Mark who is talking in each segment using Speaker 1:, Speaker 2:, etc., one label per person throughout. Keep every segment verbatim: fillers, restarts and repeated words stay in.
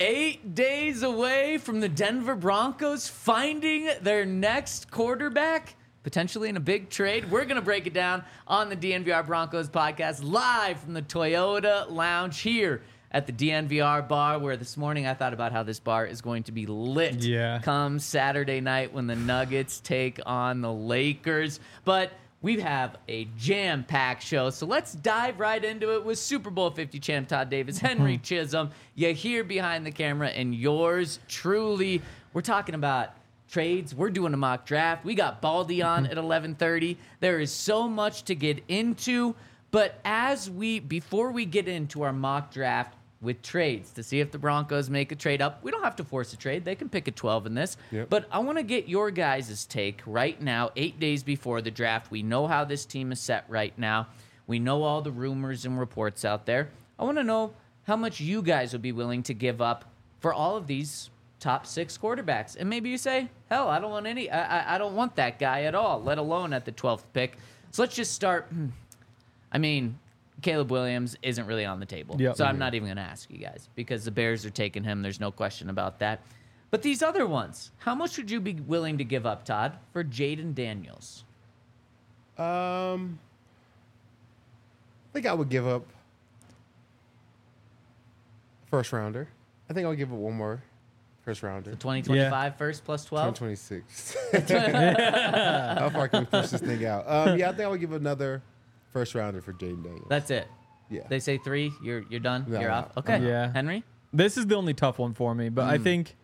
Speaker 1: eight days away from the Denver Broncos finding their next quarterback, potentially in a big trade. We're going to break it down on the D N V R Broncos podcast live from the Toyota Lounge here at the D N V R bar, where this morning I thought about how this bar is going to be lit
Speaker 2: yeah.
Speaker 1: come Saturday night when the Nuggets take on the Lakers. But we have a jam-packed show, so let's dive right into it with Super Bowl fifty champ Todd Davis, Henry Chisholm. You here behind the camera, and yours truly. We're talking about trades. We're doing a mock draft. We got Baldy on at eleven thirty. There is so much to get into, but as we before we get into our mock draft with trades to see if the Broncos make a trade up, we don't have to force a trade. They can pick a twelve in this.
Speaker 3: Yep.
Speaker 1: But I want to get your guys' take right now, eight days before the draft. We know how this team is set right now. We know all the rumors and reports out there. I want to know how much you guys would be willing to give up for all of these top six quarterbacks. And maybe you say, hell, I don't want any. I, I, I don't want that guy at all, let alone at the twelfth pick. So let's just start. I mean, Caleb Williams isn't really on the table.
Speaker 2: Yep.
Speaker 1: So I'm not even going to ask you guys because the Bears are taking him. There's no question about that. But these other ones, how much would you be willing to give up, Todd, for Jaden Daniels?
Speaker 3: Um, I think I would give up first rounder. I think I'll give up one more first rounder.
Speaker 1: The twenty twenty-five
Speaker 2: Yeah.
Speaker 1: first plus twelve?
Speaker 3: twenty twenty-six. How far can we push this thing out? Um, yeah, I think I would give another first rounder for Jaden Daniels.
Speaker 1: That's it.
Speaker 3: Yeah.
Speaker 1: They say three, you're you're done,
Speaker 3: No,
Speaker 1: you're
Speaker 3: no,
Speaker 1: off. Okay.
Speaker 3: no.
Speaker 2: Yeah.
Speaker 1: Henry?
Speaker 2: This is the only tough one for me, but I
Speaker 1: Mm.
Speaker 2: think,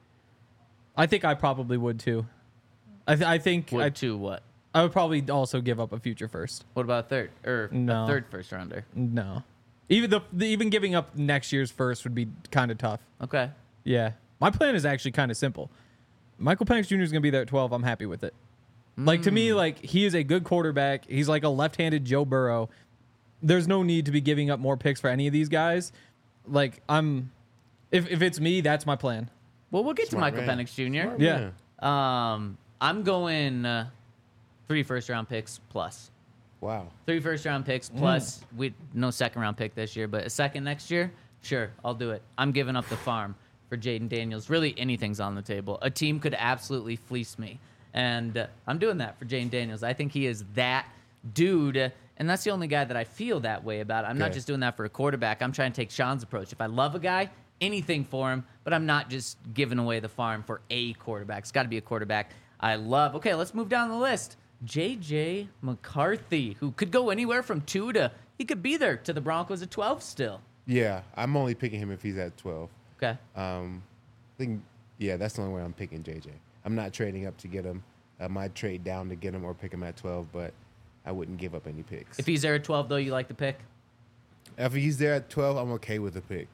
Speaker 2: I think I probably would too. I, th- I think
Speaker 1: What
Speaker 2: I,
Speaker 1: to what?
Speaker 2: I would probably also give up a future first.
Speaker 1: What about a third or
Speaker 2: No.
Speaker 1: a third first rounder?
Speaker 2: No, even the, the even giving up next year's first would be kind of tough.
Speaker 1: Okay.
Speaker 2: Yeah, my plan is actually kind of simple. Michael Penix Junior is going to be there at twelve. I'm happy with it. Like to me, like he is a good quarterback. He's like a left-handed Joe Burrow. There's no need to be giving up more picks for any of these guys. Like I'm, if if it's me, that's my plan.
Speaker 1: Well, we'll get
Speaker 3: Smart
Speaker 1: to Michael
Speaker 3: man.
Speaker 1: Penix Junior
Speaker 3: Smart
Speaker 2: Yeah.
Speaker 3: man.
Speaker 1: Um, I'm going uh, three first round picks plus.
Speaker 3: Wow.
Speaker 1: Three first round picks plus we no second round pick this year, but a second next year. Sure, I'll do it. I'm giving up the farm for Jaden Daniels. Really, anything's on the table. A team could absolutely fleece me, and uh, I'm doing that for Jaden Daniels. I think he is that dude, uh, and that's the only guy that I feel that way about. I'm not
Speaker 3: Okay.
Speaker 1: just doing that for a quarterback. I'm trying to take Sean's approach. If I love a guy, anything for him, but I'm not just giving away the farm for a quarterback. It's got to be a quarterback I love. Okay, let's move down the list. J J McCarthy, who could go anywhere from two to, he could be there to the Broncos at twelve still.
Speaker 3: Yeah, I'm only picking him if he's at twelve.
Speaker 1: Okay.
Speaker 3: Um, I think, yeah, that's the only way I'm picking J J. I'm not trading up to get him. I might trade down to get him or pick him at twelve, but I wouldn't give up any picks.
Speaker 1: If he's there at twelve, though, you like the pick?
Speaker 3: If he's there at twelve, I'm okay with the pick.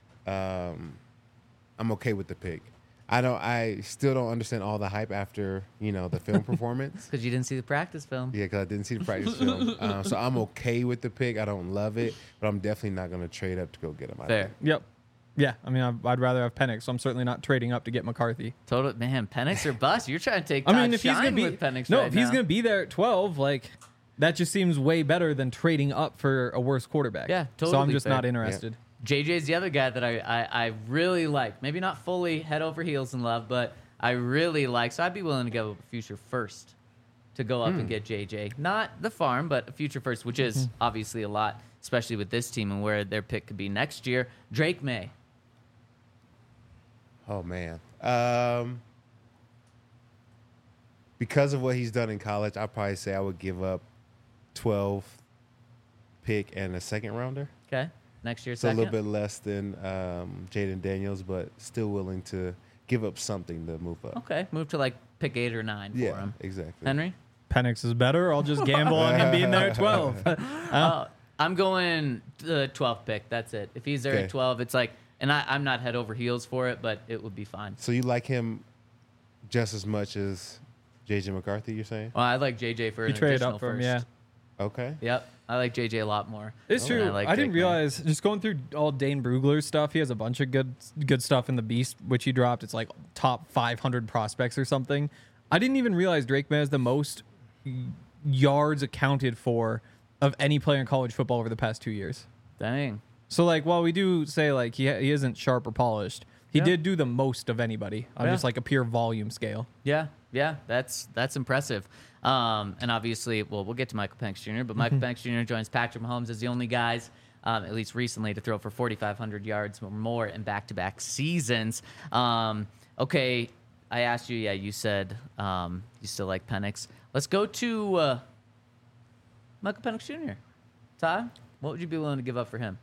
Speaker 3: Um, I'm okay with the pick. I don't. I still don't understand all the hype after you know the film performance.
Speaker 1: Because you didn't see the practice film.
Speaker 3: Yeah, because I didn't see the practice film. Um, so I'm okay with the pick. I don't love it, but I'm definitely not going to trade up to go get him. I
Speaker 1: Fair.
Speaker 3: think.
Speaker 2: Yep. Yeah, I mean, I'd, I'd rather have Penix, so I'm certainly not trading up to get McCarthy.
Speaker 1: Total man, Penix or bust. You're trying to take.
Speaker 2: I
Speaker 1: Todd
Speaker 2: mean, if he's
Speaker 1: Shine
Speaker 2: gonna be
Speaker 1: with Penix
Speaker 2: no,
Speaker 1: right
Speaker 2: if he's
Speaker 1: now.
Speaker 2: gonna be there at twelve, like that just seems way better than trading up for a worse quarterback.
Speaker 1: Yeah,
Speaker 2: So I'm
Speaker 1: totally
Speaker 2: just
Speaker 1: fair.
Speaker 2: not interested.
Speaker 1: J J's the other guy that I, I, I really like. Maybe not fully head over heels in love, but I really like. So I'd be willing to go a future first to go up and get J J. Not the farm, but a future first, which is obviously a lot, especially with this team and where their pick could be next year. Drake May.
Speaker 3: Oh man. Um, because of what he's done in college, I'd probably say I would give up twelve pick and a second rounder.
Speaker 1: Okay. Next year,
Speaker 3: So
Speaker 1: second.
Speaker 3: a little bit less than um, Jaden Daniels, but still willing to give up something to move up.
Speaker 1: Okay. Move to like pick eight or nine
Speaker 3: Yeah,
Speaker 1: for him.
Speaker 3: exactly.
Speaker 1: Henry?
Speaker 2: Penix is better. I'll just gamble on him being there at twelve.
Speaker 1: Uh, I'm going the twelfth pick. That's it. If he's there
Speaker 3: Okay.
Speaker 1: at twelve, it's like, and I, I'm not head over heels for it, but it would be fine.
Speaker 3: So you like him just as much as J J McCarthy, you're saying?
Speaker 1: Well, I like J J for
Speaker 2: You
Speaker 1: an
Speaker 2: trade
Speaker 1: additional
Speaker 2: up for him,
Speaker 1: first.
Speaker 2: yeah.
Speaker 3: Okay.
Speaker 1: Yep. I like J J a lot more.
Speaker 2: It's
Speaker 1: than
Speaker 2: true.
Speaker 1: like
Speaker 2: I, didn't
Speaker 1: Drake May.
Speaker 2: realize just going through all Dane Brugler's stuff. He has a bunch of good good stuff in the Beast, which he dropped. It's like top five hundred prospects or something. I didn't even realize Drake May has the most yards accounted for of any player in college football over the past two years.
Speaker 1: Dang.
Speaker 2: So like, while we do say like he he isn't sharp or polished, He
Speaker 1: Yeah.
Speaker 2: did do the most of anybody on
Speaker 1: Yeah.
Speaker 2: just like a pure volume scale.
Speaker 1: Yeah, yeah, that's that's impressive. Um, and obviously, well, we'll get to Michael Penix Junior, but Michael Penix Junior joins Patrick Mahomes as the only guys, um, at least recently, to throw for forty-five hundred yards or more in back-to-back seasons. Um, okay, I asked you, yeah, you said um, you still like Penix. Let's go to uh, Michael Penix Junior Todd, what would you be willing to give up for him?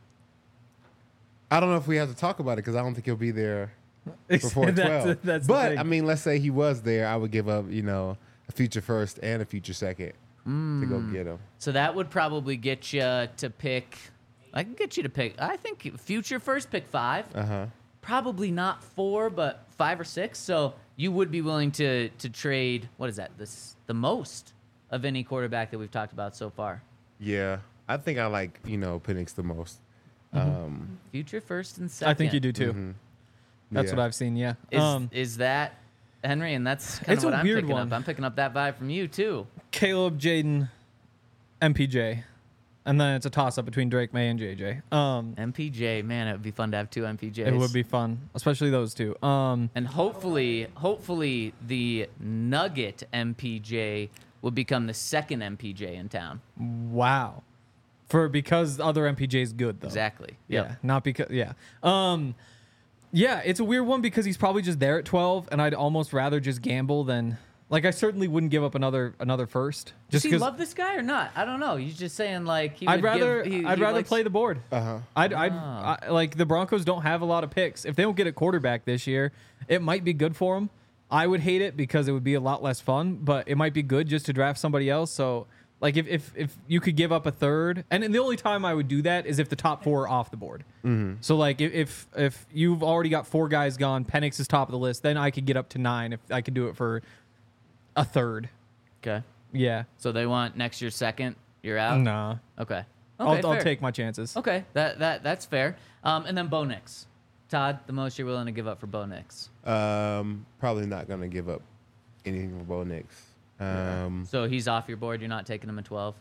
Speaker 3: I don't know if we have to talk about it because I don't think he'll be there before
Speaker 2: That's-
Speaker 3: twelve.
Speaker 2: that's the
Speaker 3: but
Speaker 2: thing.
Speaker 3: I mean, let's say he was there, I would give up, you know, a future first and a future second to go get him.
Speaker 1: So that would probably get you to pick. I can get you to pick. I think future first, pick five.
Speaker 3: Uh huh.
Speaker 1: Probably not four, but five or six. So you would be willing to to trade. What is that? This the most of any quarterback that we've talked about so far.
Speaker 3: Yeah, I think I like you know Penix the most. Um,
Speaker 1: Future first and second.
Speaker 2: I think you do too.
Speaker 3: mhm.
Speaker 2: That's
Speaker 3: Yeah.
Speaker 2: what I've seen. Yeah.
Speaker 1: Is
Speaker 2: um,
Speaker 1: is that Henry? And that's kind
Speaker 2: It's
Speaker 1: of
Speaker 2: a
Speaker 1: what I'm
Speaker 2: weird
Speaker 1: picking
Speaker 2: one.
Speaker 1: up. I'm picking up that vibe from you too.
Speaker 2: Caleb, Jaden, M P J, and then it's a toss up between Drake May and J J. Um,
Speaker 1: M P J, man, it would be fun to have two M P Js.
Speaker 2: it would be fun, especially those two. Um,
Speaker 1: And hopefully, hopefully the Nugget M P J will become the second M P J in town.
Speaker 2: wow. For because the other M P J is good though.
Speaker 1: Exactly.
Speaker 2: Yeah,
Speaker 1: Yep.
Speaker 2: not because yeah. Um yeah, it's a weird one because he's probably just there at twelve and I'd almost rather just gamble than like I certainly wouldn't give up another another first.
Speaker 1: Does
Speaker 2: Just
Speaker 1: he
Speaker 2: because
Speaker 1: love this guy or not? I don't know. He's just saying like he
Speaker 2: I'd
Speaker 1: would
Speaker 2: rather
Speaker 1: give, he,
Speaker 2: I'd
Speaker 1: he
Speaker 2: rather
Speaker 1: likes-
Speaker 2: play the board.
Speaker 3: Uh huh.
Speaker 2: I'd, I'd
Speaker 1: Ah.
Speaker 2: I, like the Broncos don't have a lot of picks. If they don't get a quarterback this year, it might be good for them. I would hate it because it would be a lot less fun, but it might be good just to draft somebody else. So like if if, if you could give up a third, and the only time I would do that is if the top four are off the board.
Speaker 3: Mm-hmm.
Speaker 2: So like if, if if you've already got four guys gone, Penix is top of the list, then I could get up to nine if I could do it for a third.
Speaker 1: Okay.
Speaker 2: Yeah.
Speaker 1: So they want next year's second. You're out.
Speaker 2: Nah.
Speaker 1: Okay. Okay.
Speaker 2: I'll, I'll
Speaker 1: fair.
Speaker 2: take my chances.
Speaker 1: Okay. That that that's fair. Um, and then Bo Nix. Todd, the most you're willing to give up for Bo Nix.
Speaker 3: Um, probably not gonna give up anything for Bo Nix. Um,
Speaker 1: So he's off your board. You're not taking him at twelve.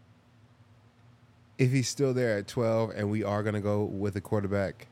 Speaker 3: if he's still there at twelve and we are gonna go with a quarterback,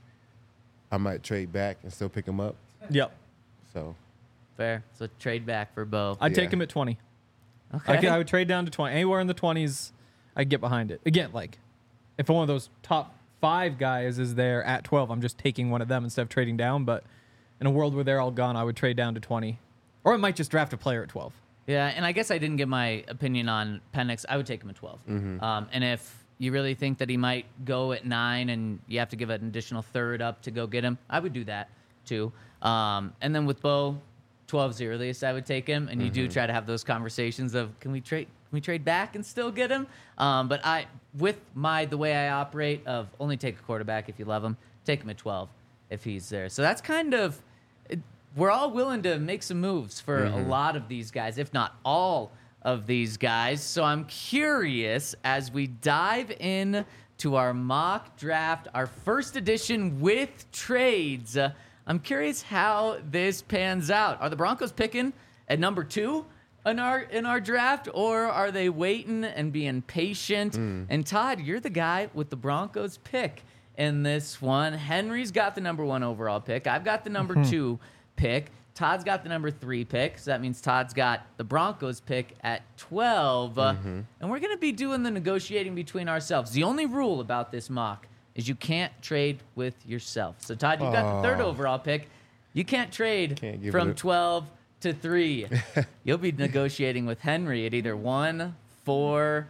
Speaker 3: I might trade back and still pick him up.
Speaker 2: Yep.
Speaker 3: So
Speaker 1: Fair. So trade back for Bo.
Speaker 2: I'd
Speaker 3: Yeah.
Speaker 2: take him at twenty.
Speaker 1: Okay.
Speaker 2: I, could, I would trade down to twenty. Anywhere in the twenties, I'd get behind it. Again, like, if one of those top five guys is there at twelve, I'm just taking one of them instead of trading down. But in a world where they're all gone, I would trade down to twenty. Or I might just draft a player at twelve.
Speaker 1: Yeah, and I guess I didn't give my opinion on Penix. I would take him at twelve. Um, and if you really think that he might go at nine and you have to give an additional third up to go get him, I would do that too. Um, and then with Bo, twelve's the earliest I would take him. And you do try to have those conversations of can we trade can we trade back and still get him? Um, but I with my the way I operate of only take a quarterback if you love him, take him at twelve if he's there. So that's kind of it, we're all willing to make some moves for a lot of these guys, if not all of these guys. So I'm curious as we dive in to our mock draft, our first edition with trades. Uh, I'm curious how this pans out. Are the Broncos picking at number two in our in our draft, or are they waiting and being patient? And Todd, you're the guy with the Broncos pick in this one. Henry's got the number one overall pick. I've got the number two pick. Todd's got the number three pick, so that means Todd's got the Broncos pick at twelve. Uh, and we're going to be doing the negotiating between ourselves. The only rule about this mock is you can't trade with yourself. So, Todd, you've got the third
Speaker 3: Aw.
Speaker 1: overall pick. You can't trade
Speaker 3: Can't give
Speaker 1: from
Speaker 3: it a-
Speaker 1: twelve to three. You'll be negotiating with Henry at either one, four,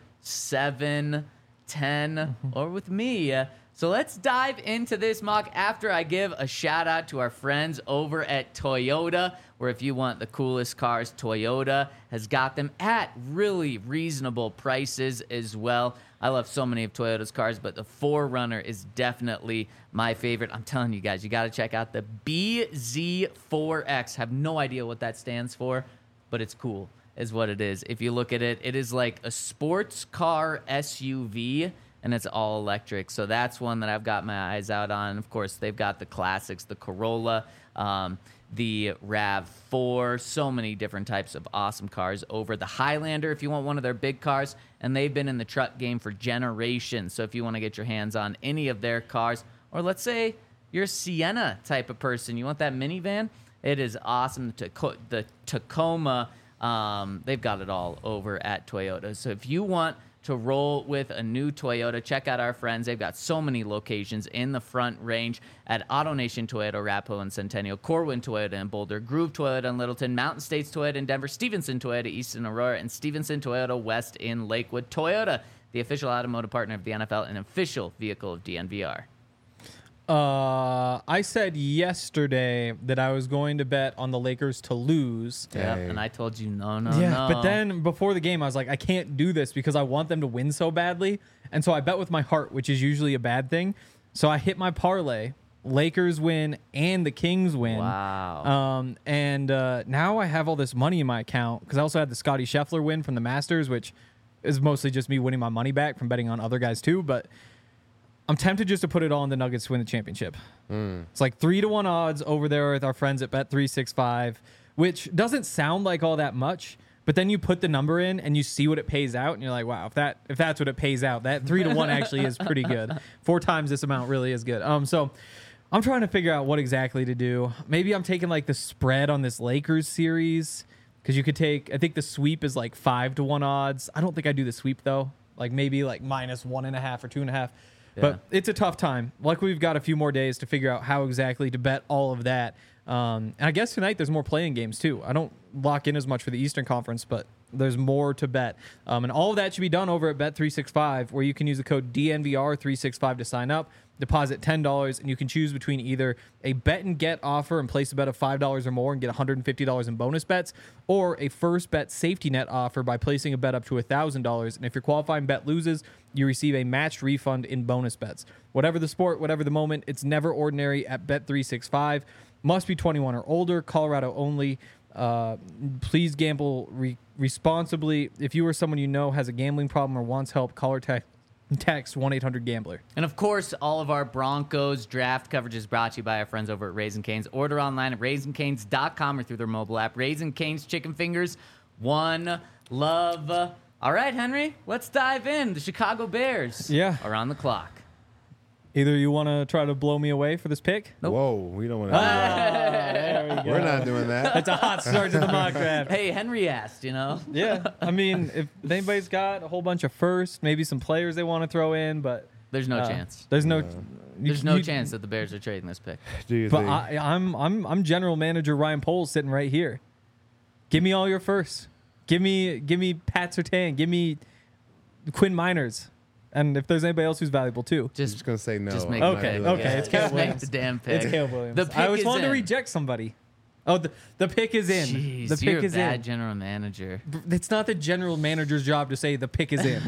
Speaker 1: seven, ten, or with me. Uh, So let's dive into this mock after I give a shout out to our friends over at Toyota, where if you want the coolest cars, Toyota has got them at really reasonable prices as well. I love so many of Toyota's cars, but the four runner is definitely my favorite. I'm telling you guys, you got to check out the B Z four X. Have no idea what that stands for, but it's cool is what it is. If you look at it, it is like a sports car S U V, and it's all electric. So that's one that I've got my eyes out on. Of course, they've got the classics, the Corolla, um, the RAV four, so many different types of awesome cars over. The Highlander, if you want one of their big cars, and they've been in the truck game for generations. So if you want to get your hands on any of their cars, or let's say you're a Sienna type of person, you want that minivan, it is awesome. The, Taco- the Tacoma, um, they've got it all over at Toyota. So if you want to roll with a new Toyota, check out our friends. They've got so many locations in the Front Range at AutoNation Toyota, Arapahoe and Centennial, Corwin Toyota in Boulder, Groove Toyota in Littleton, Mountain States Toyota in Denver, Stevenson Toyota East in Aurora, and Stevenson Toyota West in Lakewood. Toyota, the official automotive partner of the N F L and official vehicle of D N V R.
Speaker 2: Uh, I said yesterday that I was going to bet on the Lakers to lose.
Speaker 1: Yeah,
Speaker 3: Dang.
Speaker 1: and I told you no, no,
Speaker 2: yeah,
Speaker 1: no.
Speaker 2: but then before the game, I was like, I can't do this because I want them to win so badly. And so I bet with my heart, which is usually a bad thing. So I hit my parlay. Lakers win and the Kings win.
Speaker 1: Wow.
Speaker 2: Um, and uh, now I have all this money in my account because I also had the Scotty Scheffler win from the Masters, which is mostly just me winning my money back from betting on other guys too. But I'm tempted just to put it all on the Nuggets to win the championship.
Speaker 3: Mm.
Speaker 2: It's like three to one odds over there with our friends at Bet three sixty-five, which doesn't sound like all that much, but then you put the number in and you see what it pays out, and you're like, wow, if that if that's what it pays out, that three to one actually is pretty good. Four times this amount really is good. Um, so I'm trying to figure out what exactly to do. Maybe I'm taking like the spread on this Lakers series because you could take. I think the sweep is like five to one odds. I don't think I do the sweep though. Like maybe like minus one and a half or two and a half. But it's a tough time. Luckily, we've got a few more days to figure out how exactly to bet all of that. Um, and I guess tonight there's more playing games too. I don't lock in as much for the Eastern Conference, but there's more to bet. Um, and all of that should be done over at Bet three sixty-five, where you can use the code D N V R three sixty-five to sign up, deposit ten dollars, and you can choose between either a bet and get offer and place a bet of five dollars or more and get one hundred fifty dollars in bonus bets, or a first bet safety net offer by placing a bet up to one thousand dollars. And if your qualifying bet loses, you receive a matched refund in bonus bets. Whatever the sport, whatever the moment, it's never ordinary at Bet three sixty-five. Must be twenty-one or older, Colorado only. Uh, please gamble re- responsibly. If you or someone you know has a gambling problem or wants help, call or te- text one eight hundred gambler.
Speaker 1: And of course, all of our Broncos draft coverage is brought to you by our friends over at Raising Cane's. Order online at raising canes dot com or through their mobile app. Raising Cane's Chicken Fingers, one love. All right, Henry, let's dive in. The Chicago Bears
Speaker 2: Yeah.
Speaker 1: are on the clock.
Speaker 2: Either you want to try to blow me away for this pick?
Speaker 1: Nope.
Speaker 3: Whoa, we don't want to.
Speaker 2: There we go.
Speaker 3: We're not doing that.
Speaker 2: That's a hot start to the mock draft.
Speaker 1: Hey, Henry asked, you know?
Speaker 2: Yeah, I mean, if anybody's got a whole bunch of firsts, maybe some players they want to throw in, but
Speaker 1: There's no
Speaker 2: uh,
Speaker 1: chance.
Speaker 2: There's no,
Speaker 3: No.
Speaker 2: you-
Speaker 1: There's no
Speaker 2: you-
Speaker 1: chance that the Bears are trading this pick.
Speaker 3: Do you
Speaker 2: But
Speaker 3: think?
Speaker 2: I, I'm I'm I'm general manager Ryan Poles sitting right here. Give me all your firsts. Give me give me Pat Surtain. Give me Quinn Miners. And if there's anybody else who's valuable too.
Speaker 3: I'm
Speaker 1: Just,
Speaker 3: just gonna say no.
Speaker 1: just
Speaker 3: I'm
Speaker 1: make
Speaker 3: not
Speaker 2: Okay,
Speaker 3: doing
Speaker 2: okay,
Speaker 3: that.
Speaker 2: it's
Speaker 1: just
Speaker 2: Caleb
Speaker 1: make
Speaker 2: Williams.
Speaker 1: the damn pick.
Speaker 2: It's Caleb Williams.
Speaker 1: The pick
Speaker 2: I always
Speaker 1: is
Speaker 2: wanted to
Speaker 1: in.
Speaker 2: reject somebody. Oh, the, the pick is in.
Speaker 1: Jeez,
Speaker 2: the pick
Speaker 1: you're a
Speaker 2: is
Speaker 1: bad
Speaker 2: in.
Speaker 1: general manager.
Speaker 2: It's not the general manager's job to say the pick is in.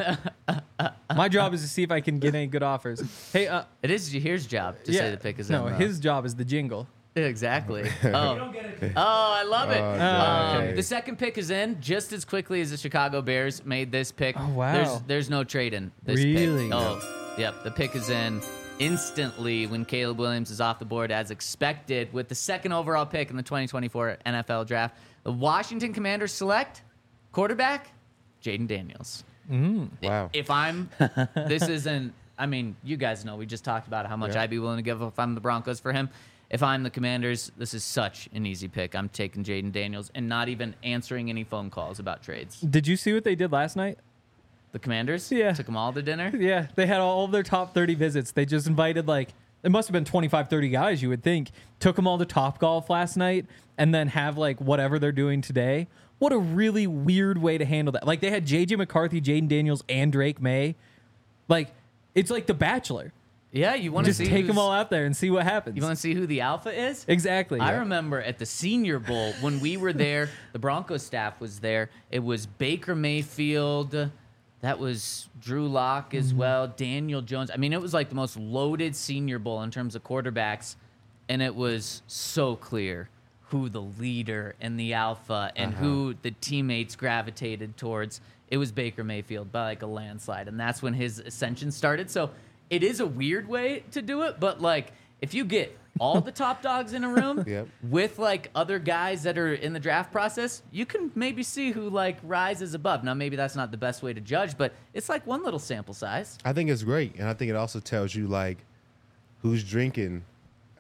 Speaker 2: My job is to see if I can get any good offers. Hey, uh,
Speaker 1: It is his job to
Speaker 2: yeah,
Speaker 1: say the pick is
Speaker 2: no,
Speaker 1: in. though.
Speaker 2: his job is the jingle.
Speaker 1: Exactly. Oh. oh, I love it.
Speaker 3: Oh,
Speaker 1: um,
Speaker 2: okay.
Speaker 1: The second pick is in just as quickly as the Chicago Bears made this pick.
Speaker 2: Oh, wow.
Speaker 1: There's there's no trading this
Speaker 2: Really?
Speaker 1: pick. Oh, yep. The pick is in instantly when Caleb Williams is off the board as expected with the second overall pick in the twenty twenty-four N F L draft. The Washington Commanders select quarterback Jaden Daniels.
Speaker 3: Wow.
Speaker 1: If I'm, this isn't, I mean, you guys know, we just talked about how much
Speaker 3: Yeah.
Speaker 1: I'd be willing to give if I'm the Broncos for him. If I'm the Commanders, this is such an easy pick. I'm taking Jaden Daniels and not even answering any phone calls about trades.
Speaker 2: Did you see what they did last night?
Speaker 1: The Commanders
Speaker 2: Yeah.
Speaker 1: took them all to dinner.
Speaker 2: Yeah, they had all of their top thirty visits. They just invited like it must have been twenty-five, thirty guys, you would think. Took them all to Top Golf last night and then have like whatever they're doing today. What a really weird way to handle that. Like they had J J McCarthy, Jaden Daniels, and Drake May. Like it's like The Bachelor.
Speaker 1: Yeah, you want to
Speaker 2: Just
Speaker 1: see
Speaker 2: take them
Speaker 1: who's-
Speaker 2: all out there and see what happens.
Speaker 1: You want to see who the alpha is?
Speaker 2: exactly.
Speaker 1: I
Speaker 2: yeah.
Speaker 1: remember at the Senior Bowl when we were there, the Broncos staff was there. It was Baker Mayfield. That was Drew Lock as
Speaker 2: Mm-hmm.
Speaker 1: well. Daniel Jones. I mean, it was like the most loaded Senior Bowl in terms of quarterbacks. And it was so clear who the leader and the alpha and
Speaker 3: Uh-huh.
Speaker 1: who the teammates gravitated towards. It was Baker Mayfield by like a landslide. And that's when his ascension started. So it is a weird way to do it. But like, if you get all the top dogs in a room
Speaker 3: Yep.
Speaker 1: with like other guys that are in the draft process, you can maybe see who like rises above. Now, maybe that's not the best way to judge, but it's like one little sample size.
Speaker 3: I think it's great, and I think it also tells you like who's drinking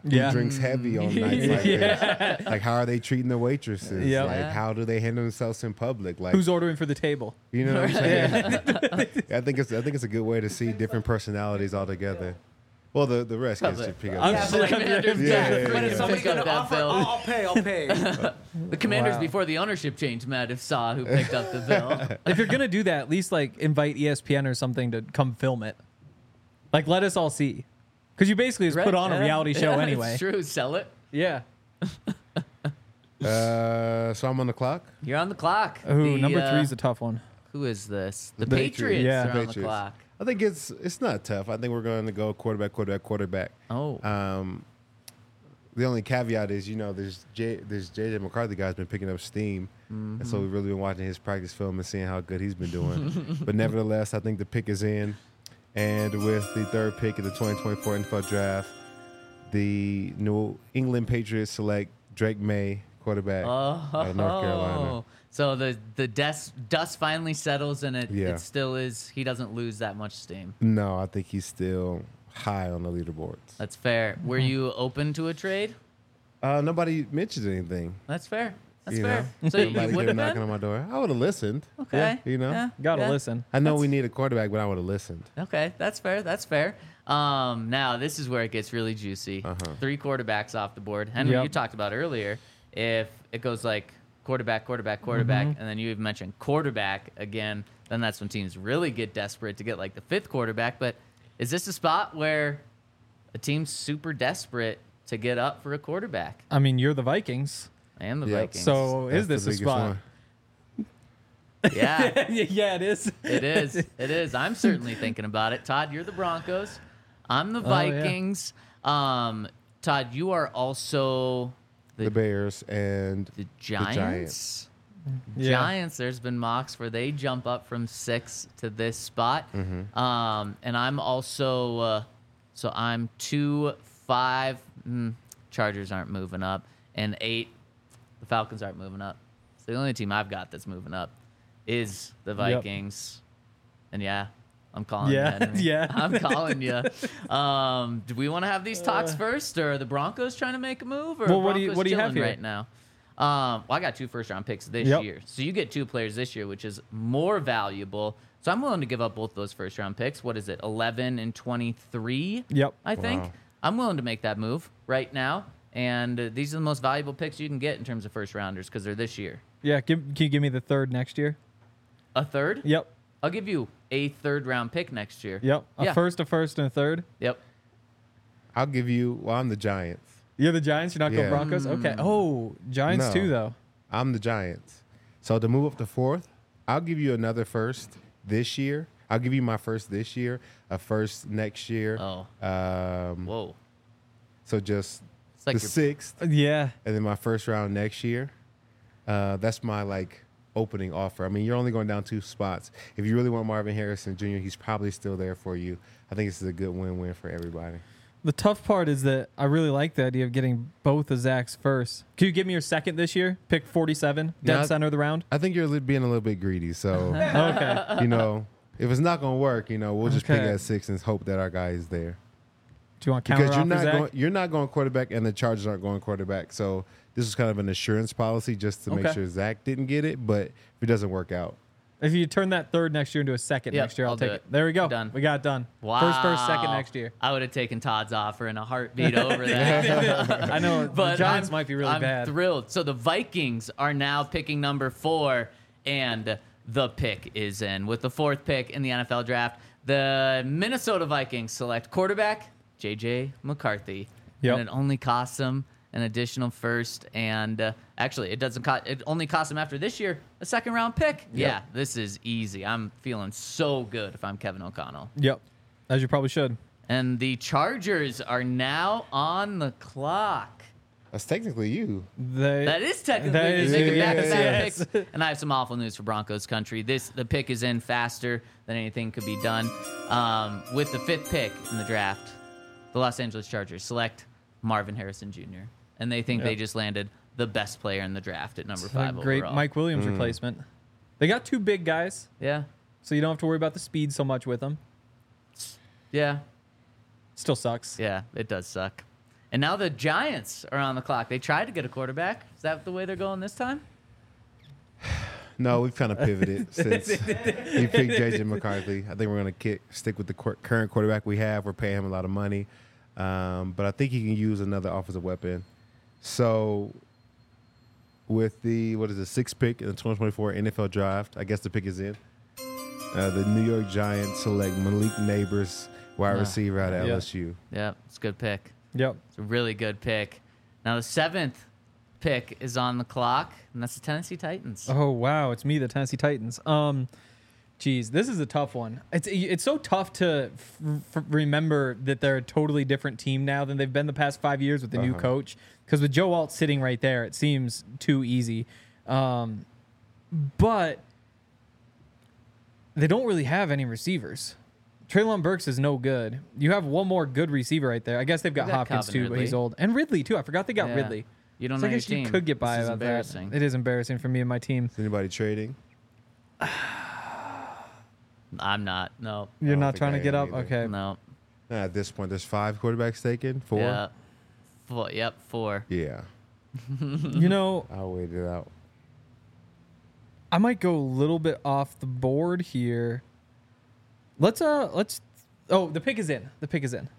Speaker 2: Yeah.
Speaker 3: drinks heavy on nights like this? Like, how are they treating the waitresses?
Speaker 2: Yep.
Speaker 3: Like,
Speaker 1: Yeah.
Speaker 3: how do they handle themselves in public? Like,
Speaker 2: Who's ordering for the table?
Speaker 3: you know what I'm saying? I think it's I think it's a good way to see different personalities all together. Well, the the rest gets to pick up.
Speaker 2: I'm
Speaker 1: Yeah,
Speaker 2: sure-
Speaker 1: the Commanders
Speaker 3: Yeah, yeah,
Speaker 4: But
Speaker 3: yeah.
Speaker 4: if somebody
Speaker 1: pick up
Speaker 4: gonna
Speaker 1: that
Speaker 4: offer,
Speaker 1: bill.
Speaker 4: I'll, I'll pay. I'll pay.
Speaker 1: The Commanders
Speaker 2: Wow.
Speaker 1: before the ownership change, Matt, if saw who picked up the bill.
Speaker 2: If you're gonna do that, at least like invite E S P N or something to come film it. Like, let us all see, because you basically just put on a
Speaker 1: Yeah.
Speaker 2: reality show
Speaker 1: Yeah,
Speaker 2: anyway.
Speaker 1: It's true. Sell it.
Speaker 2: Yeah.
Speaker 3: Uh, so I'm on the clock.
Speaker 1: You're on the clock.
Speaker 2: Ooh,
Speaker 1: The,
Speaker 2: number
Speaker 1: uh,
Speaker 2: three is a tough one.
Speaker 1: Who is this? The,
Speaker 3: The
Speaker 1: Patriots,
Speaker 3: Patriots.
Speaker 2: Yeah.
Speaker 1: are on the
Speaker 3: Patriots.
Speaker 1: clock.
Speaker 3: I think it's it's not tough. I think we're going to go quarterback, quarterback, quarterback.
Speaker 1: Oh.
Speaker 3: Um, the only caveat is, you know, there's J, there's J J McCarthy guy's been picking up steam,
Speaker 1: Mm-hmm.
Speaker 3: and so we've really been watching his practice film and seeing how good he's been doing. But nevertheless, I think the pick is in, and with the third pick of the twenty twenty-four N F L Draft, the New England Patriots select Drake May, quarterback
Speaker 1: Oh,
Speaker 3: out of North Carolina.
Speaker 1: So the the dust dust finally settles, and it,
Speaker 3: Yeah.
Speaker 1: it still is. He doesn't lose that much steam.
Speaker 3: No, I think he's still high on the leaderboards.
Speaker 1: That's fair. Were you open to a trade?
Speaker 3: Uh, nobody mentioned anything.
Speaker 1: That's fair. That's
Speaker 3: you
Speaker 1: fair.
Speaker 3: know?
Speaker 1: So you
Speaker 3: Nobody
Speaker 1: would
Speaker 3: came
Speaker 1: have
Speaker 3: knocking
Speaker 1: been
Speaker 3: on my door. I would have listened.
Speaker 1: okay.
Speaker 3: you know?
Speaker 1: Yeah,
Speaker 2: Gotta
Speaker 1: yeah.
Speaker 2: listen.
Speaker 3: I know we need a quarterback, but I would have listened.
Speaker 1: Okay, that's fair. That's fair. Um, now this is where it gets really juicy.
Speaker 3: Uh-huh.
Speaker 1: Three quarterbacks off the board. Henry,
Speaker 2: Yep.
Speaker 1: you talked about earlier. If it goes like quarterback, quarterback, quarterback,
Speaker 2: Mm-hmm.
Speaker 1: and then you even mentioned quarterback again, then that's when teams really get desperate to get like the fifth quarterback. But is this a spot where a team's super desperate to get up for a quarterback?
Speaker 2: I mean, you're the Vikings,
Speaker 1: And the
Speaker 3: Yep.
Speaker 1: Vikings.
Speaker 2: so
Speaker 3: That's
Speaker 2: is this
Speaker 3: the
Speaker 2: a
Speaker 3: biggest
Speaker 2: spot?
Speaker 3: one.
Speaker 1: yeah,
Speaker 2: Yeah, it is.
Speaker 1: it is. It is. I'm certainly thinking about it. Todd, you're the Broncos. I'm the
Speaker 2: Oh, yeah.
Speaker 1: Vikings. Um, Todd, you are also
Speaker 3: The,
Speaker 1: the,
Speaker 3: Bears and
Speaker 1: the Giants.
Speaker 3: Giants.
Speaker 2: Yeah.
Speaker 1: Giants. There's been mocks where they jump up from six to this spot.
Speaker 3: Mm-hmm.
Speaker 1: Um, and I'm also uh, so I'm two, five. Mm, Chargers aren't moving up, and eight. The Falcons aren't moving up. So the only team I've got that's moving up is the Vikings. And yeah, I'm calling
Speaker 2: Yeah,
Speaker 1: you. Henry.
Speaker 2: yeah.
Speaker 1: I'm calling you. Um, do we want to have these talks first, or are the Broncos trying to make a move, or
Speaker 2: Uh. Well,
Speaker 1: are
Speaker 2: what do you-
Speaker 1: Broncos
Speaker 2: what do you have
Speaker 1: chilling
Speaker 2: here?
Speaker 1: right now? Um, well, I got two first round picks this
Speaker 2: Yep.
Speaker 1: year, so you get two players this year, which is more valuable. So I'm willing to give up both those first round picks. What is it, eleven and twenty-three?
Speaker 2: Yep.
Speaker 1: I think
Speaker 3: Wow.
Speaker 1: I'm willing to make that move right now. And uh, these are the most valuable picks you can get in terms of first rounders because they're this year.
Speaker 2: Yeah. Give, can you give me the third next year?
Speaker 1: A third?
Speaker 2: Yep.
Speaker 1: I'll give you a third round pick next year.
Speaker 2: Yep. A
Speaker 1: Yeah.
Speaker 2: first, a first, and a third.
Speaker 1: Yep.
Speaker 3: I'll give you. Well, I'm the Giants.
Speaker 2: You're the Giants. You're not
Speaker 3: Yeah.
Speaker 2: going Broncos. Okay. Oh, Giants
Speaker 3: No.
Speaker 2: too, though.
Speaker 3: I'm the Giants. So to move up to fourth, I'll give you another first this year. I'll give you my first this year, a first next year.
Speaker 1: Oh.
Speaker 3: Um,
Speaker 1: Whoa.
Speaker 3: so just
Speaker 1: It's like
Speaker 3: the
Speaker 1: you're-
Speaker 3: sixth,
Speaker 2: Yeah.
Speaker 3: and then my first round next year. Uh, that's my like opening offer. I mean, you're only going down two spots. If you really want Marvin Harrison Junior, he's probably still there for you. I think this is a good win-win for everybody.
Speaker 2: The tough part is that I really like the idea of getting both of Zach's first. Can you give me your second this year? Pick forty-seven, dead
Speaker 3: Yeah, I-
Speaker 2: center of the round.
Speaker 3: I think you're li- being a little bit greedy. So,
Speaker 2: Okay.
Speaker 3: you know, if it's not going to work, you know, we'll just pick
Speaker 2: Okay.
Speaker 3: at six and hope that our guy is there.
Speaker 2: Do you want to counter
Speaker 3: Because you're
Speaker 2: offer,
Speaker 3: not
Speaker 2: Zach?
Speaker 3: going, you're not going quarterback, and the Chargers aren't going quarterback. So this is kind of an assurance policy just to make
Speaker 2: Okay.
Speaker 3: sure Zach didn't get it. But if it doesn't work out,
Speaker 2: If you turn that third next year into a second
Speaker 1: Yep,
Speaker 2: next year, I'll,
Speaker 1: I'll do
Speaker 2: take it.
Speaker 1: it.
Speaker 2: There we go.
Speaker 1: Done.
Speaker 2: We got it done.
Speaker 1: Wow.
Speaker 2: First, first, second next year.
Speaker 1: I would have taken Todd's offer in a heartbeat over that.
Speaker 2: I know
Speaker 1: But
Speaker 2: the Giants
Speaker 1: I'm-
Speaker 2: might be really
Speaker 1: I'm
Speaker 2: bad.
Speaker 1: thrilled. So the Vikings are now picking number four, and the pick is in. With the fourth pick in the N F L draft, the Minnesota Vikings select quarterback J J McCarthy.
Speaker 2: Yep.
Speaker 1: And it only costs them an additional first, and uh, actually, it doesn't cost. It only costs them after this year a second round pick. Yeah, this is easy. I'm feeling so good if I'm Kevin O'Connell.
Speaker 2: Yep. As you probably should.
Speaker 1: And the Chargers are now on the clock.
Speaker 3: that's technically you.
Speaker 2: They,
Speaker 1: That is technically
Speaker 2: That is-
Speaker 1: making
Speaker 3: yes,
Speaker 1: back-to-back
Speaker 2: yes.
Speaker 1: picks. And I have some awful news for Broncos country. This the pick is in faster than anything could be done. Um, with the fifth pick in the draft, the Los Angeles Chargers select Marvin Harrison Junior And they think
Speaker 2: Yep.
Speaker 1: they just landed the best player in the draft at number
Speaker 2: a
Speaker 1: five
Speaker 2: great
Speaker 1: overall.
Speaker 2: Mike Williams
Speaker 3: Mm.
Speaker 2: replacement. They got two big guys,
Speaker 1: Yeah,
Speaker 2: so you don't have to worry about the speed so much with them.
Speaker 1: yeah,
Speaker 2: Still sucks.
Speaker 1: yeah. It does suck. And now the Giants are on the clock. They tried to get a quarterback. Is that the way they're going this time?
Speaker 3: No, we've kind of pivoted since he picked J J McCarthy. I think we're going to stick with the qu- current quarterback we have. We're paying him a lot of money. Um, but I think he can use another offensive weapon. So with the, what is it, sixth pick in the twenty twenty-four N F L draft, I guess the pick is in. Uh, the New York Giants select Malik Neighbors, wide
Speaker 1: Yeah.
Speaker 3: receiver out of
Speaker 2: Yeah.
Speaker 3: L S U.
Speaker 1: Yeah, it's a good pick.
Speaker 2: Yep.
Speaker 1: It's a really good pick. Now the seventh pick is on the clock, and that's the Tennessee Titans.
Speaker 2: Oh wow, it's me, the Tennessee Titans. Um, geez, this is a tough one. It's it's so tough to f- f- remember that they're a totally different team now than they've been the past five years with the new
Speaker 3: Uh-huh.
Speaker 2: coach. Because with Joe Alt sitting right there, it seems too easy. Um, but they don't really have any receivers. Traylon Burks is no good. You have one more good receiver right there. I guess they've got,
Speaker 1: They got
Speaker 2: Hopkins
Speaker 1: Calvin
Speaker 2: too, but he's
Speaker 1: Ridley.
Speaker 2: old. And Ridley too. I forgot they got
Speaker 1: Yeah.
Speaker 2: Ridley.
Speaker 1: You don't
Speaker 2: So
Speaker 1: know
Speaker 2: I
Speaker 1: your
Speaker 2: guess you
Speaker 1: team.
Speaker 2: could get by
Speaker 1: This is
Speaker 2: without that.
Speaker 1: embarrassing.
Speaker 2: It is embarrassing for me and my team.
Speaker 3: Is anybody trading?
Speaker 1: I'm not. No.
Speaker 2: You're
Speaker 3: don't
Speaker 2: not
Speaker 3: think
Speaker 2: trying
Speaker 3: I
Speaker 2: to get
Speaker 3: am
Speaker 2: up?
Speaker 3: either.
Speaker 2: Okay.
Speaker 1: No.
Speaker 3: At this point, there's five quarterbacks taken. Four?
Speaker 1: Yeah. Four. Yep. Four.
Speaker 3: Yeah.
Speaker 2: You know,
Speaker 3: I'll wait it out.
Speaker 2: I might go a little bit off the board here. Let's uh let's oh, the pick is in. The pick is in.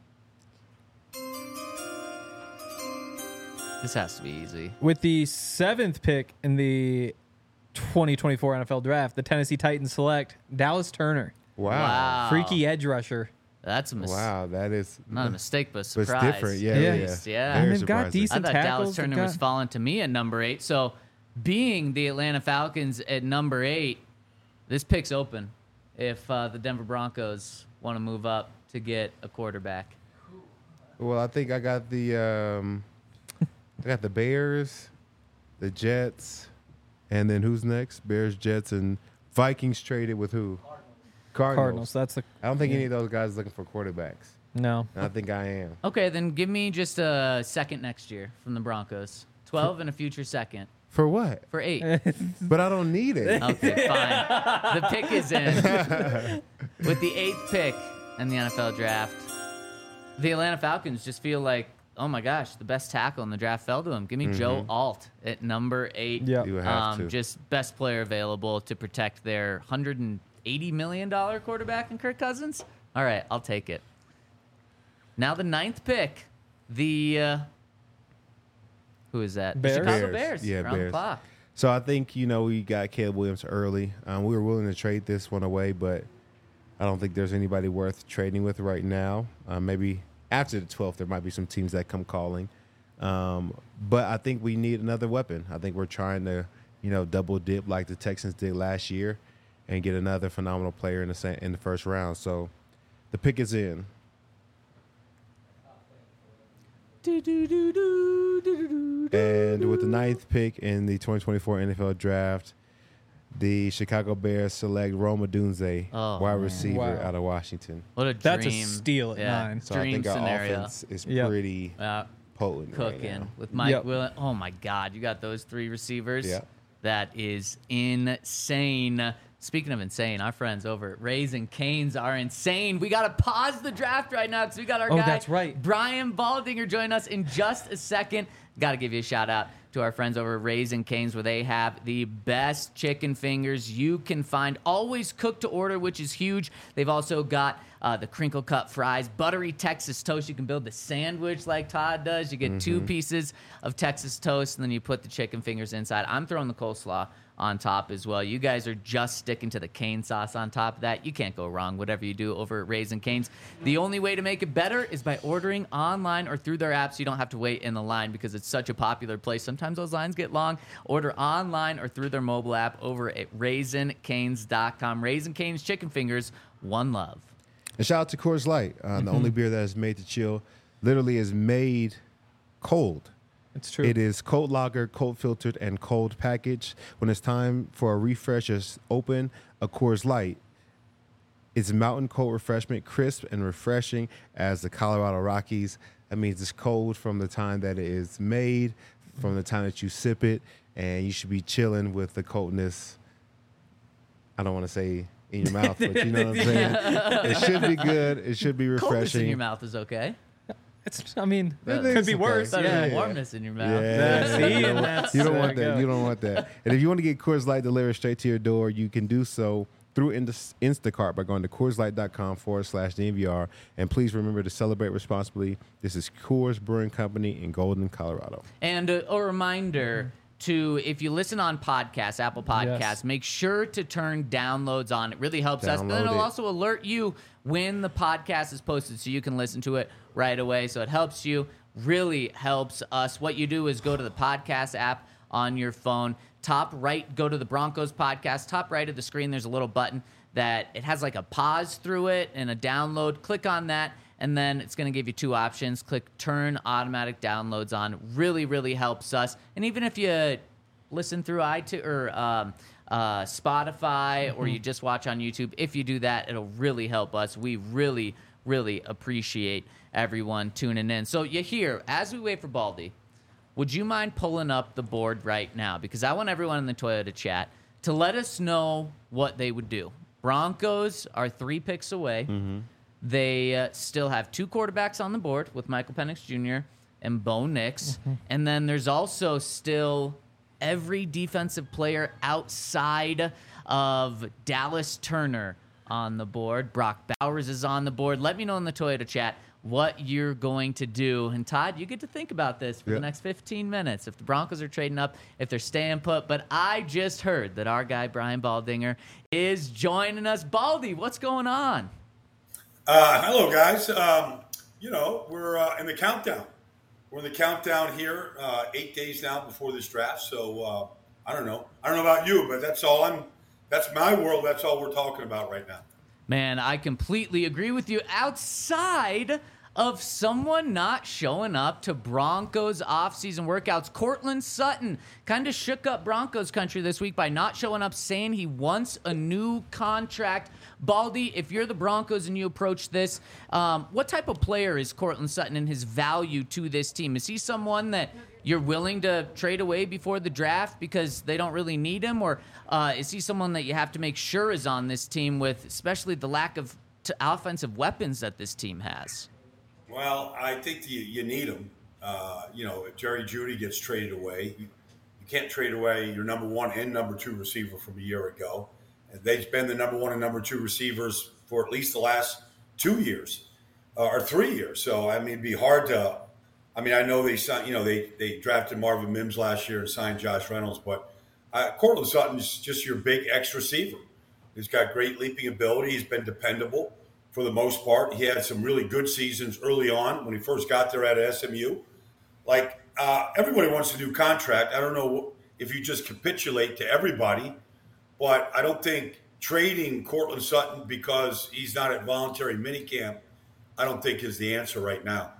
Speaker 1: This has to be easy.
Speaker 2: With the seventh pick in the twenty twenty-four N F L draft, the Tennessee Titans select Dallas Turner,
Speaker 3: Wow.
Speaker 1: Wow.
Speaker 2: freaky edge rusher.
Speaker 1: That's a mistake.
Speaker 3: Wow, that is
Speaker 1: Not a mistake, but a
Speaker 3: but
Speaker 1: surprise.
Speaker 3: it's different. Yeah,
Speaker 2: Yeah.
Speaker 3: yeah.
Speaker 1: Yes, yeah.
Speaker 3: Very
Speaker 2: And they've got
Speaker 3: surprising.
Speaker 2: decent-
Speaker 1: I thought Dallas
Speaker 2: tackles, they've
Speaker 1: Turner was
Speaker 2: got-
Speaker 1: falling to me at number eight. So, being the Atlanta Falcons at number eight, this pick's open if uh, the Denver Broncos want to move up to get a quarterback.
Speaker 3: Well, I think I got the um, I got the Bears, the Jets, and then who's next? Bears, Jets, and Vikings traded with who? Cardinals.
Speaker 2: Cardinals. That's the
Speaker 3: I don't think any of those guys looking for quarterbacks.
Speaker 2: no.
Speaker 3: And I think I am.
Speaker 1: Okay, then give me just a second next year from the Broncos. twelve and a future second
Speaker 3: For what?
Speaker 1: for eight.
Speaker 3: But I don't need it.
Speaker 1: Okay, fine. The pick is in. With the eighth pick in the N F L draft, the Atlanta Falcons just feel like, oh my gosh, the best tackle in the draft fell to him. Give me Joe Alt at number eight.
Speaker 2: Yeah.
Speaker 3: You have
Speaker 1: Um,
Speaker 3: to.
Speaker 1: just best player available to protect their one hundred eighty million dollars quarterback in Kirk Cousins. All right, I'll take it. Now the ninth pick, the uh, who is that?
Speaker 2: Bears?
Speaker 1: The Chicago
Speaker 3: Bears.
Speaker 1: Bears.
Speaker 3: Yeah,
Speaker 1: They're on the
Speaker 3: Bears.
Speaker 1: clock.
Speaker 3: So I think, you know, we got Caleb Williams early. Um, we were willing to trade this one away, but I don't think there's anybody worth trading with right now. Uh, maybe after the twelfth, there might be some teams that come calling. Um, but I think we need another weapon. I think we're trying to, you know, double dip like the Texans did last year and get another phenomenal player in the sa- in the first round. So the pick is in. And with the ninth pick in the twenty twenty-four N F L draft, the Chicago Bears select Roma Dunze,
Speaker 1: Oh,
Speaker 3: wide
Speaker 1: man.
Speaker 3: receiver
Speaker 2: Wow.
Speaker 3: out of Washington.
Speaker 1: What a dream.
Speaker 2: That's a steal at
Speaker 1: yeah,
Speaker 2: nine.
Speaker 3: So I
Speaker 1: Dream
Speaker 3: think our
Speaker 1: scenario.
Speaker 3: offense is
Speaker 2: Yep.
Speaker 3: pretty
Speaker 1: Uh,
Speaker 3: potent right
Speaker 1: cooking
Speaker 3: now.
Speaker 1: with Mike
Speaker 2: Yep.
Speaker 1: Williams. Oh my God, you got those three receivers.
Speaker 3: Yeah.
Speaker 1: That is insane. Speaking of insane, our friends over at Raising Canes are insane. We got to pause the draft right now because we got our
Speaker 2: Oh,
Speaker 1: guy,
Speaker 2: that's right.
Speaker 1: Brian Baldinger, join us in just a second. Got to give you a shout out to our friends over at Raising Canes, where they have the best chicken fingers you can find, always cooked to order, which is huge. They've also got uh, the crinkle cut fries, buttery Texas toast. You can build the sandwich like Todd does. You get two pieces of Texas toast, and then you put the chicken fingers inside. I'm throwing the coleslaw on top as well. You guys are just sticking to the cane sauce on top of that. You can't go wrong, whatever you do over at Raising Cane's. The only way to make it better is by ordering online or through their app, so you don't have to wait in the line because it's such a popular place. Sometimes those lines get long. Order online or through their mobile app over at raisin canes dot com. Raising Cane's chicken fingers, one love.
Speaker 3: And shout out to Coors Light, uh, the only beer that is made to chill. Literally is made cold.
Speaker 2: It's true.
Speaker 3: It is cold lager, cold filtered, and cold packaged. When it's time for a refresh, just open a Coors Light. It's mountain cold refreshment, crisp and refreshing as the Colorado Rockies. That means it's cold from the time that it is made, from the time that you sip it, and you should be chilling with the coldness. I don't want to say in your mouth, but you know what I'm saying. It should be good. It should be
Speaker 1: Coldness in
Speaker 3: refreshing.
Speaker 1: your mouth is okay.
Speaker 2: It's, I mean,
Speaker 3: That
Speaker 2: it could be
Speaker 3: is
Speaker 2: worse.
Speaker 3: okay.
Speaker 1: Better
Speaker 2: Yeah.
Speaker 1: than
Speaker 3: Yeah.
Speaker 1: warmness in your mouth.
Speaker 3: Yeah.
Speaker 2: See,
Speaker 3: you
Speaker 2: and
Speaker 3: don't,
Speaker 2: that's-
Speaker 3: you don't
Speaker 2: there
Speaker 3: want
Speaker 2: you
Speaker 3: that.
Speaker 2: go.
Speaker 3: You don't want that. And if you want to get Coors Light delivered straight to your door, you can do so through Inst- Instacart by going to CoorsLight.com forward slash DNVR. And please remember to celebrate responsibly. This is Coors Brewing Company in Golden, Colorado.
Speaker 1: And a, a reminder to, if you listen on podcasts, Apple Podcasts,
Speaker 2: Yes.
Speaker 1: make sure to turn downloads on. It really helps us. But then
Speaker 3: Download
Speaker 1: it'll
Speaker 3: it.
Speaker 1: also alert you when the podcast is posted so you can listen to it right away. So it helps you, really helps us. What you do is go to the podcast app on your phone. Top right, go to the Broncos podcast. Top right of the screen, there's a little button that it has like a pause through it and a download. Click on that, and then it's going to give you two options. Click turn automatic downloads on. Really, really helps us. And even if you listen through iTunes or um, uh, Spotify, or you just watch on YouTube, if you do that, it'll really help us. We really, really appreciate everyone tuning in. So you hear, as we wait for Baldy, would you mind pulling up the board right now? Because I want everyone in the Toyota chat to let us know what they would do. Broncos are three picks away.
Speaker 3: Mm-hmm.
Speaker 1: They uh, still have two quarterbacks on the board with Michael Penix Junior and Bo Nix. And then there's also still every defensive player outside of Dallas Turner on the board. Brock Bowers is on the board. Let me know in the Toyota chat what you're going to do. And Todd, you get to think about this for
Speaker 3: Yep.
Speaker 1: the next fifteen minutes. If the Broncos are trading up, if they're staying put. But I just heard that our guy, Brian Baldinger, is joining us. Baldy, what's going on?
Speaker 4: Uh, hello, guys. Um, you know, we're uh, in the countdown. We're in the countdown here, uh, eight days now before this draft. So uh, I don't know. I don't know about you, but that's all I'm. That's my world. That's all we're talking about right now.
Speaker 1: Man, I completely agree with you. Outside of someone not showing up to Broncos offseason workouts, Cortland Sutton kind of shook up Broncos country this week by not showing up, saying he wants a new contract. Baldy, if you're the Broncos and you approach this, um, what type of player is Cortland Sutton and his value to this team? Is he someone that you're willing to trade away before the draft because they don't really need him? Or uh, is he someone that you have to make sure is on this team with especially the lack of t- offensive weapons that this team has?
Speaker 4: Well, I think you, you need them. Uh, you know, if Jerry Jeudy gets traded away, you, you can't trade away your number one and number two receiver from a year ago. And they've been the number one and number two receivers for at least the last two years uh, or three years. So, I mean, it'd be hard to – I mean, I know they signed, you know, they, they drafted Marvin Mims last year and signed Josh Reynolds, but uh, Cortland Sutton's just your big X receiver. He's got great leaping ability. He's been dependable for the most part. He had some really good seasons early on when he first got there at S M U. Like, uh, everybody wants a new contract. I don't know if you just capitulate to everybody, but I don't think trading Cortland Sutton because he's not at voluntary minicamp, I don't think is the answer right now.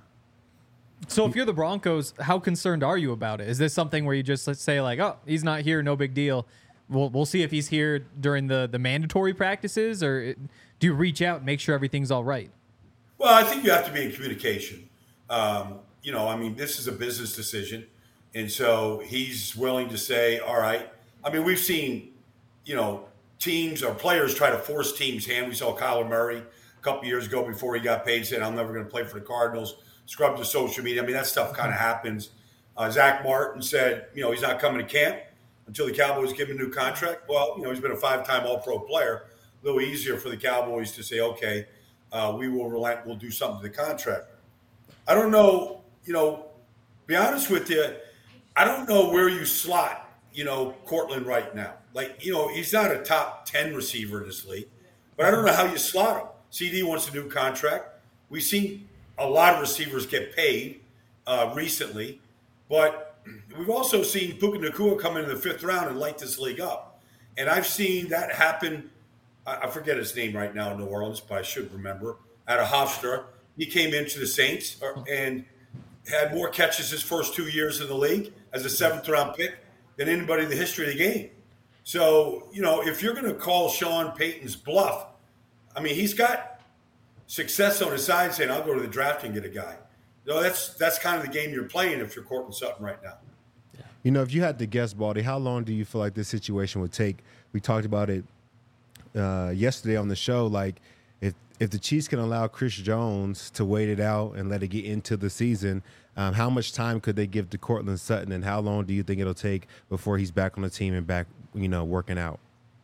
Speaker 2: So if you're the Broncos, how concerned are you about it? Is this something where you just let's say like, oh, he's not here, no big deal. We'll we'll see if he's here during the the mandatory practices, or it, do you reach out and make sure everything's all right?
Speaker 4: Well, I think you have to be in communication. Um, you know, I mean, this is a business decision, and so he's willing to say, all right. I mean, we've seen, you know, teams or players try to force teams' hand. We saw Kyler Murray a couple years ago before he got paid, said, I'm never going to play for the Cardinals. Scrubbed the social media. I mean, that stuff kind of happens. Uh, Zach Martin said, you know, he's not coming to camp until the Cowboys give him a new contract. Well, you know, he's been a five-time All-Pro player. A little easier for the Cowboys to say, okay, uh, we will relent. We'll do something to the contract. I don't know, you know, be honest with you, I don't know where you slot, you know, Cortland right now. Like, you know, he's not a top ten receiver in this league, but I don't know how you slot him. C D wants a new contract. We've seen a lot of receivers get paid uh, recently, but we've also seen Puka Nacua come into the fifth round and light this league up. And I've seen that happen. I, I forget his name right now in New Orleans, but I should remember. Out of Hofstra, he came into the Saints and had more catches his first two years in the league as a seventh round pick than anybody in the history of the game. So, you know, if you're going to call Sean Payton's bluff, I mean, he's got success on his side saying, I'll go to the draft and get a guy. No, that's that's kind of the game you're playing if you're Cortland Sutton right now.
Speaker 3: You know, if you had to guess, Baldy, how long do you feel like this situation would take? We talked about it uh, yesterday on the show. Like, if if the Chiefs can allow Chris Jones to wait it out and let it get into the season, um, how much time could they give to Cortland Sutton, and how long do you think it'll take before he's back on the team and back, you know, working out?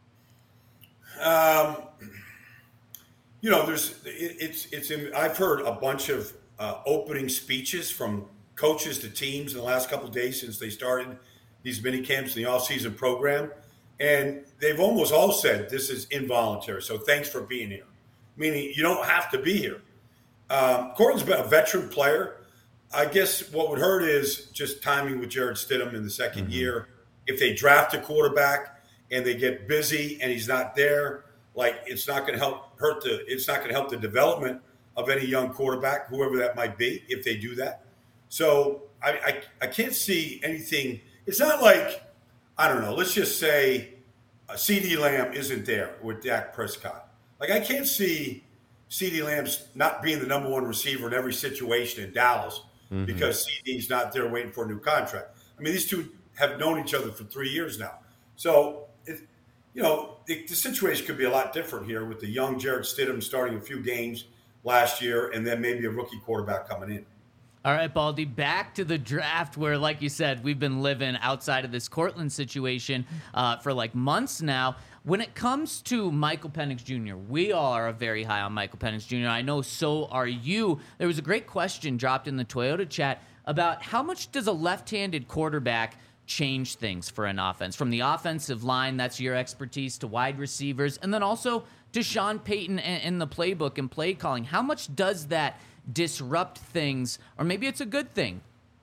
Speaker 4: Um, you know, there's it, it's it's. In, I've heard a bunch of uh, opening speeches from coaches to teams in the last couple of days since they started these mini camps in the off-season program, and they've almost all said this is involuntary. So thanks for being here, meaning you don't have to be here. Um, Cortland's been a veteran player. I guess what would hurt is just timing with Jarrett Stidham in the second mm-hmm. year. If they draft a quarterback and they get busy and he's not there, like it's not going to help hurt the. It's not going to help the development of any young quarterback, whoever that might be, if they do that. So I, I, I can't see anything. It's not like, I don't know, let's just say uh, CeeDee Lamb isn't there with Dak Prescott. Like I can't see CeeDee Lamb's not being the number one receiver in every situation in Dallas mm-hmm. because CeeDee's not there waiting for a new contract. I mean, these two have known each other for three years now. So, it, you know, the, the situation could be a lot different here with the young Jarrett Stidham starting a few games last year and then maybe a rookie quarterback coming in.
Speaker 1: All right, Baldy, back to the draft where, like you said, we've been living outside of this Cortland situation uh, for like months now. When it comes to Michael Penix Junior, we all are very high on Michael Penix Junior I know so are you. There was a great question dropped in the Toyota chat about how much does a left-handed quarterback change things for an offense? From the offensive line, that's your expertise, to wide receivers, and then also to Sean Payton and the playbook and play calling. How much does that disrupt things, or maybe it's a good thing?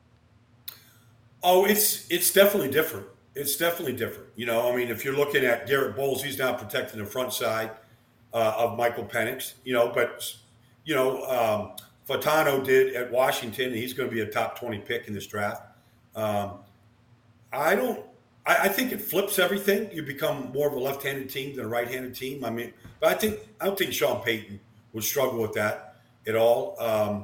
Speaker 4: Oh, it's it's definitely different. It's definitely different. You know, I mean, if you're looking at Garrett Bowles, he's now protecting the front side uh, of Michael Penix, you know, but, you know, um, Fatano did at Washington, and he's going to be a top twenty pick in this draft. Um, I don't, I, I think it flips everything. You become more of a left-handed team than a right-handed team. I mean, but I think, I don't think Sean Payton would struggle with that at all. Um,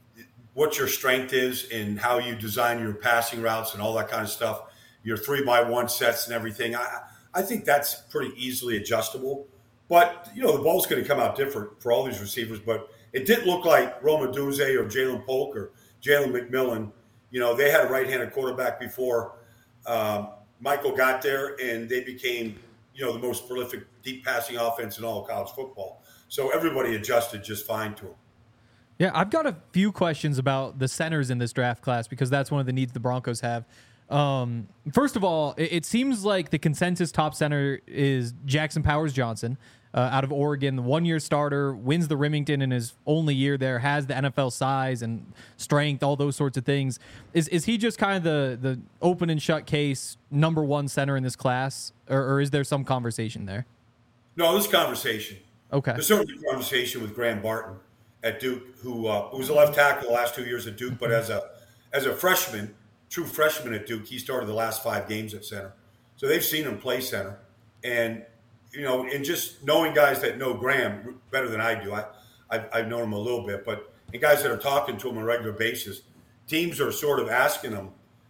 Speaker 4: what your strength is and how you design your passing routes and all that kind of stuff, your three by one sets and everything. I, I think that's pretty easily adjustable. But, you know, the ball's going to come out different for all these receivers. But it didn't look like Roma Duze or Jalen Polk or Jalen McMillan. You know, they had a right-handed quarterback before um, Michael got there, and they became, you know, the most prolific deep passing offense in all of college football. So everybody adjusted just fine to him.
Speaker 2: Yeah, I've got a few questions about the centers in this draft class because that's one of the needs the Broncos have. Um, first of all, it, it seems like the consensus top center is Jackson Powers Johnson uh, out of Oregon, the one-year starter, wins the Remington in his only year there, has the N F L size and strength, all those sorts of things. Is is he just kind of the, the open and shut case number one center in this class, or, or is there some conversation there?
Speaker 4: No, there's conversation.
Speaker 2: Okay.
Speaker 4: There's certainly conversation with Graham Barton at Duke, who uh, who was a left tackle the last two years at Duke, but as a as a freshman, true freshman at Duke, he started the last five games at center. So they've seen him play center. And, you know, and just knowing guys that know Graham better than I do, I, I've, I've known him a little bit, but and guys that are talking to him on a regular basis, teams are sort of asking him,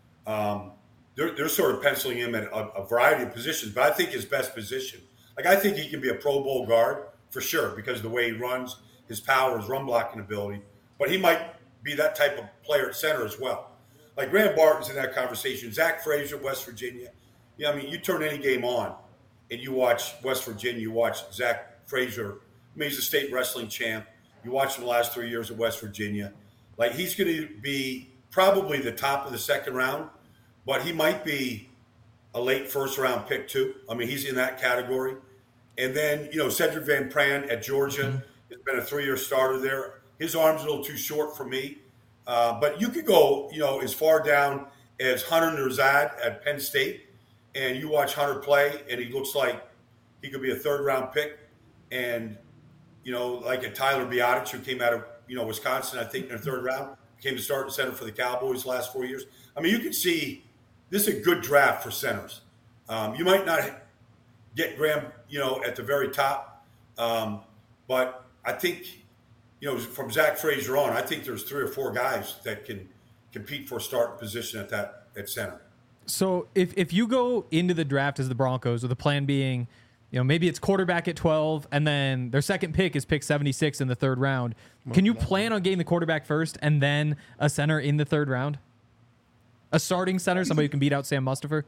Speaker 4: um, they're, they're sort of penciling him at a, a variety of positions, but I think his best position, like I think he can be a Pro Bowl guard for sure because of the way he runs, his power, his run blocking ability, but he might be that type of player at center as well. Like Graham Barton's in that conversation. Zach Frazier, West Virginia. Yeah, I mean, you turn any game on and you watch West Virginia, you watch Zach Frazier. I mean, he's a state wrestling champ. You watch him the last three years at West Virginia. Like, he's going to be probably the top of the second round, but he might be a late first round pick too. I mean, he's in that category. And then, you know, Cedric Van Pran at Georgia mm-hmm. has been a three-year starter there. His arm's a little too short for me. Uh, but you could go, you know, as far down as Hunter Nerzad at Penn State, and you watch Hunter play, and he looks like he could be a third-round pick. And, you know, like a Tyler Biotic, who came out of, you know, Wisconsin, I think, in the third round, became the starting center for the Cowboys the last four years. I mean, you can see this is a good draft for centers. Um, you might not get Graham, you know, at the very top, um, but I think – you know, from Zach Frazier on, I think there's three or four guys that can compete for a starting position at that at center.
Speaker 2: So if if you go into the draft as the Broncos with the plan being, you know, maybe it's quarterback at twelve, and then their second pick is pick seventy-six in the third round. Can you plan on getting the quarterback first and then a center in the third round? A starting center, somebody who can beat out Sam Mustipher?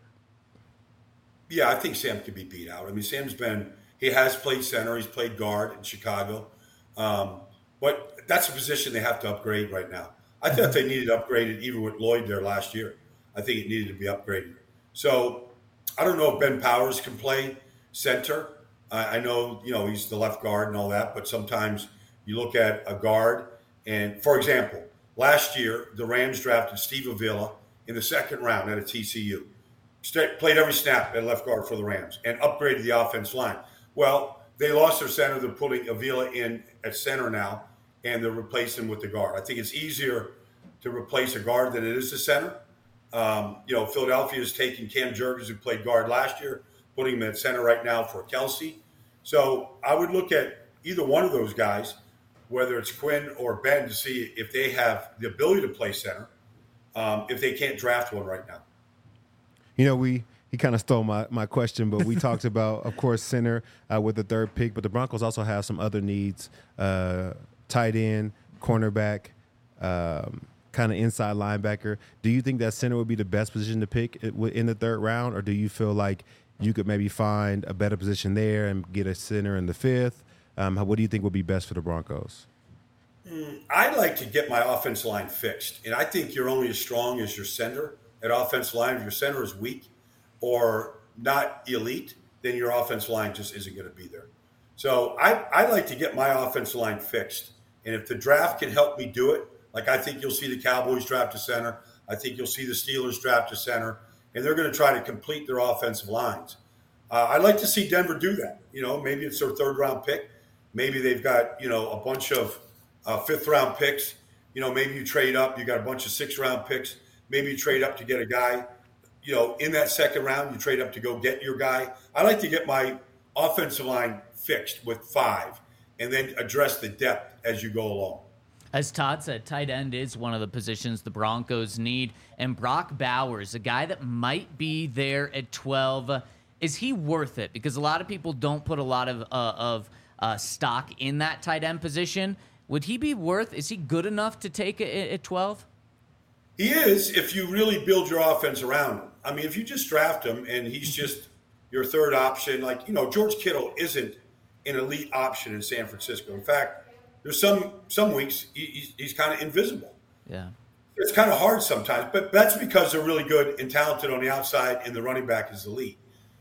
Speaker 4: Yeah, I think Sam can be beat out. I mean, Sam's been, he has played center. He's played guard in Chicago. Um, but that's a position they have to upgrade right now. I thought they needed to upgrade it even with Lloyd there last year. I think it needed to be upgraded. So I don't know if Ben Powers can play center. I, I know, you know, he's the left guard and all that, but sometimes you look at a guard. And, for example, last year, the Rams drafted Steve Avila in the second round at a T C U. Played every snap at left guard for the Rams and upgraded the offense line. Well, they lost their center. They're putting Avila in at center now, and they're replacing him with the guard. I think it's easier to replace a guard than it is a center. Um, you know, Philadelphia is taking Cam Jurgens, who played guard last year, putting him at center right now for Kelsey. So I would look at either one of those guys, whether it's Quinn or Ben, to see if they have the ability to play center, um, if they can't draft one right now.
Speaker 3: You know, we he kind of stole my, my question, but we talked about, of course, center uh, with the third pick, but the Broncos also have some other needs, uh, tight end, cornerback, um, kind of inside linebacker. Do you think that center would be the best position to pick in the third round, or do you feel like you could maybe find a better position there and get a center in the fifth? Um, what do you think would be best for the Broncos?
Speaker 4: Mm, I'd like to get my offensive line fixed, and I think you're only as strong as your center at offensive line. If your center is weak or not elite, then your offensive line just isn't going to be there. So I, I'd like to get my offensive line fixed. And if the draft can help me do it, like I think you'll see the Cowboys draft a center. I think you'll see the Steelers draft a center. And they're going to try to complete their offensive lines. Uh, I'd like to see Denver do that. You know, maybe it's their third round pick. Maybe they've got, you know, a bunch of uh, fifth round picks. You know, maybe you trade up. You got a bunch of six round picks. Maybe you trade up to get a guy, you know, in that second round, you trade up to go get your guy. I like to get my offensive line fixed with five and then address the depth as you go along.
Speaker 1: As Todd said, tight end is one of the positions the Broncos need. And Brock Bowers, a guy that might be there at twelve, is he worth it? Because a lot of people don't put a lot of, uh, of uh, stock in that tight end position. Would he be worth, is he good enough to take it at twelve?
Speaker 4: He is, if you really build your offense around him. I mean, if you just draft him and he's just your third option, like, you know, George Kittle isn't an elite option in San Francisco. In fact, there's some some weeks he, he's, he's kind of invisible.
Speaker 1: Yeah.
Speaker 4: It's kind of hard sometimes, but that's because they're really good and talented on the outside and the running back is elite.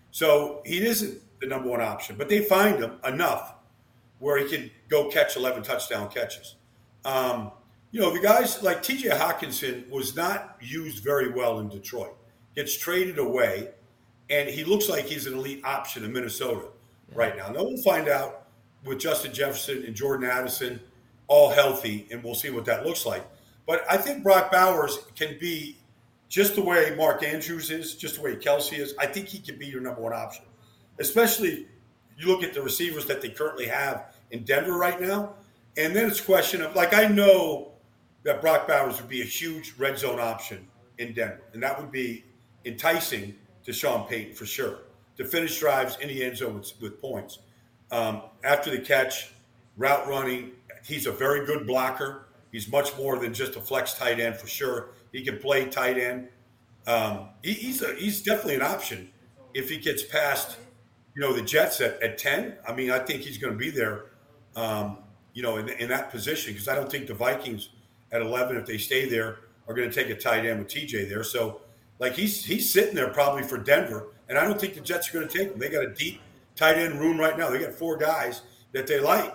Speaker 4: So he isn't the number one option, but they find him enough where he can go catch eleven touchdown catches. Um, You know, the guys like T J Hawkinson was not used very well in Detroit. Gets traded away, and he looks like he's an elite option in Minnesota yeah. right now. Now we'll find out with Justin Jefferson and Jordan Addison all healthy, and we'll see what that looks like. But I think Brock Bowers can be just the way Mark Andrews is, just the way Kelsey is. I think he can be your number one option, especially you look at the receivers that they currently have in Denver right now. And then it's a question of, like, I know that Brock Bowers would be a huge red zone option in Denver. And that would be enticing to Sean Payton for sure, to finish drives in the end zone with, with points. Um, after the catch, route running, he's a very good blocker. He's much more than just a flex tight end for sure. He can play tight end. Um, he, he's a, he's definitely an option if he gets past, you know, the Jets at, at ten. I mean, I think he's going to be there, um, you know, in, in that position, because I don't think the Vikings – at eleven, if they stay there, are going to take a tight end with T J there. So, like, he's he's sitting there probably for Denver, and I don't think the Jets are going to take him. They got a deep tight end room right now. They got four guys that they like.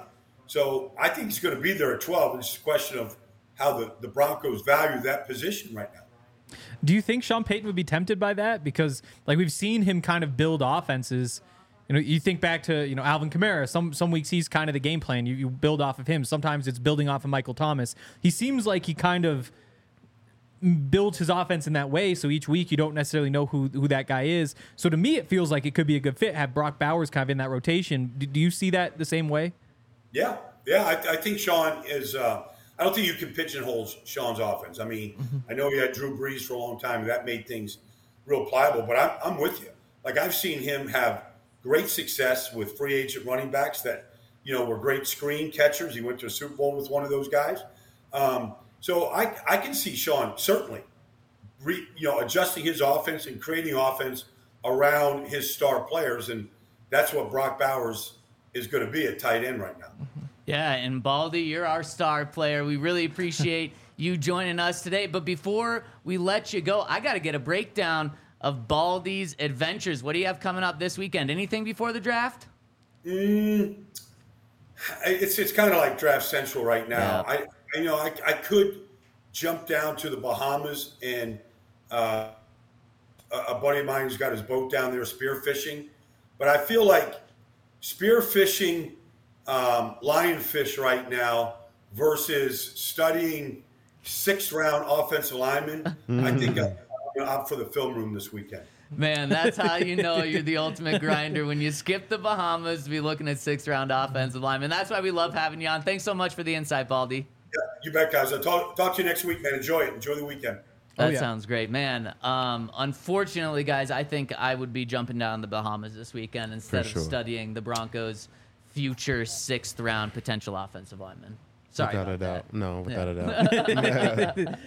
Speaker 4: So I think he's going to be there at twelve. It's a question of how the, the Broncos value that position right now.
Speaker 2: Do you think Sean Payton would be tempted by that? Because, like, we've seen him kind of build offenses. You know, you think back to, you know, Alvin Kamara. Some some weeks he's kind of the game plan. You, you build off of him. Sometimes it's building off of Michael Thomas. He seems like he kind of builds his offense in that way. So each week you don't necessarily know who who that guy is. So to me, it feels like it could be a good fit. Have Brock Bowers kind of in that rotation. Do, do you see that the same way?
Speaker 4: Yeah, yeah. I, I think Sean is. Uh, I don't think you can pigeonhole Sean's offense. I mean, mm-hmm. I know he had Drew Brees for a long time. And that made things real pliable. But I'm I'm with you. Like, I've seen him have great success with free agent running backs that, you know, were great screen catchers. He went to a Super Bowl with one of those guys. Um, so I, I can see Sean certainly, re, you know, adjusting his offense and creating offense around his star players. And that's what Brock Bowers is going to be at tight end right now.
Speaker 1: Yeah, and Baldy, you're our star player. We really appreciate you joining us today. But before we let you go, I got to get a breakdown of Baldy's adventures. What do you have coming up this weekend? Anything before the draft?
Speaker 4: Mm, it's it's kind of like Draft Central right now.
Speaker 1: Yeah.
Speaker 4: I you know I, I could jump down to the Bahamas and uh, a, a buddy of mine who's got his boat down there spearfishing, but I feel like spearfishing um, lionfish right now versus studying sixth round offensive linemen. I think I'm, I'm out for the film room this weekend.
Speaker 1: Man, that's how you know you're the ultimate grinder, when you skip the Bahamas to be looking at sixth-round offensive linemen. That's why we love having you on. Thanks so much for the insight, Baldy.
Speaker 4: Yeah, you bet, guys. I'll talk, talk to you next week, man. Enjoy it. Enjoy the weekend.
Speaker 1: That
Speaker 2: Oh, yeah.
Speaker 1: sounds great, man. Um, unfortunately, guys, I think I would be jumping down the Bahamas this weekend instead
Speaker 3: For sure.
Speaker 1: of studying the Broncos' future sixth-round potential offensive lineman. Sorry
Speaker 3: Without a
Speaker 1: about
Speaker 3: doubt.
Speaker 1: that.
Speaker 3: No, without a doubt.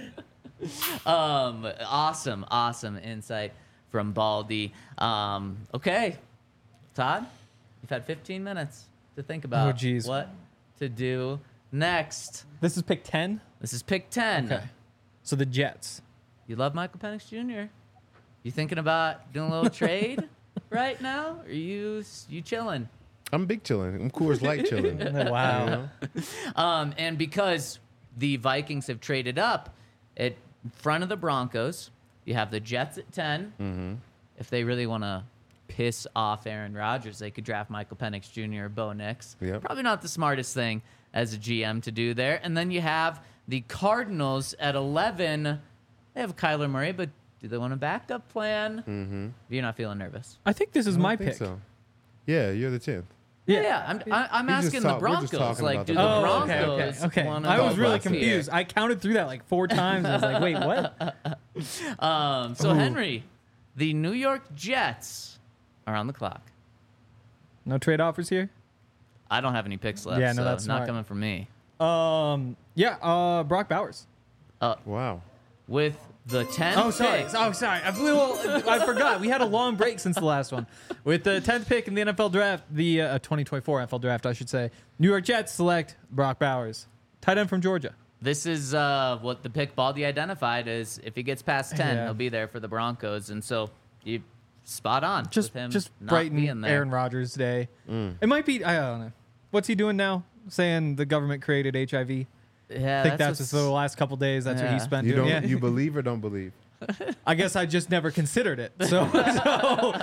Speaker 1: Um, awesome, awesome insight from Baldy. Um, okay, Todd, you've had fifteen minutes to think about
Speaker 2: Oh, geez.
Speaker 1: what to do next.
Speaker 2: This is pick ten.
Speaker 1: This is pick ten.
Speaker 2: Okay. So the Jets.
Speaker 1: You love Michael Penix Junior You thinking about doing a little trade right now? Or are you you chilling?
Speaker 3: I'm big chilling. I'm Coors Light chilling.
Speaker 2: Wow.
Speaker 3: You know?
Speaker 1: Um, and because the Vikings have traded up at front of the Broncos, you have the Jets at ten.
Speaker 3: Mm-hmm.
Speaker 1: If they really want to piss off Aaron Rodgers, they could draft Michael Penix Junior or Bo Nix.
Speaker 3: Yep.
Speaker 1: Probably not the smartest thing as a G M to do there. And then you have the Cardinals at eleven. They have Kyler Murray, but do they want a backup plan?
Speaker 3: Mm-hmm.
Speaker 1: You're not feeling nervous.
Speaker 2: I think this is
Speaker 3: I don't
Speaker 2: my
Speaker 3: think
Speaker 2: pick.
Speaker 3: so. Yeah, you're the tenth.
Speaker 1: Yeah, yeah. I'm, I, I'm
Speaker 3: We just
Speaker 1: asking the
Speaker 3: talk- we're just
Speaker 1: Broncos.
Speaker 3: talking
Speaker 1: Like,
Speaker 3: about
Speaker 1: do
Speaker 3: the
Speaker 1: the
Speaker 2: Oh,
Speaker 3: Broncos.
Speaker 2: okay,
Speaker 1: Broncos
Speaker 2: okay, okay.
Speaker 1: wanna
Speaker 2: I was
Speaker 1: go
Speaker 2: really
Speaker 1: up here?
Speaker 2: confused. I counted through that like four times. I was like, wait, what?
Speaker 1: Um, so,
Speaker 2: Ooh.
Speaker 1: Henry, the New York Jets are on the clock.
Speaker 2: No trade offers here?
Speaker 1: I don't have any picks left,
Speaker 2: Yeah, no,
Speaker 1: so
Speaker 2: that's
Speaker 1: not
Speaker 2: smart.
Speaker 1: coming from me.
Speaker 2: Um, yeah, uh, Brock Bowers.
Speaker 3: Wow.
Speaker 1: With the tenth
Speaker 2: Oh, sorry.
Speaker 1: pick,
Speaker 2: Oh, sorry. I, little, I forgot. We had a long break since the last one. With the tenth pick in the N F L draft, the uh, twenty twenty-four N F L draft, I should say, New York Jets select Brock Bowers, tight end from Georgia.
Speaker 1: this is uh, what the pick Baldy identified as. If he gets past ten,
Speaker 2: Yeah.
Speaker 1: he'll be there for the Broncos. And so you spot on
Speaker 2: Just,
Speaker 1: with him
Speaker 2: just
Speaker 1: not being
Speaker 2: brighten
Speaker 1: there.
Speaker 2: Aaron Rodgers' day. It might be. I don't know. What's he doing now? Saying the government created H I V.
Speaker 1: Yeah,
Speaker 2: I think that's,
Speaker 1: what's-
Speaker 2: just the last couple days. That's what he
Speaker 1: Yeah.
Speaker 2: spent
Speaker 3: You
Speaker 2: doing.
Speaker 3: don't.
Speaker 2: Yeah.
Speaker 3: You believe or don't believe?
Speaker 2: I guess I just never considered it. So, so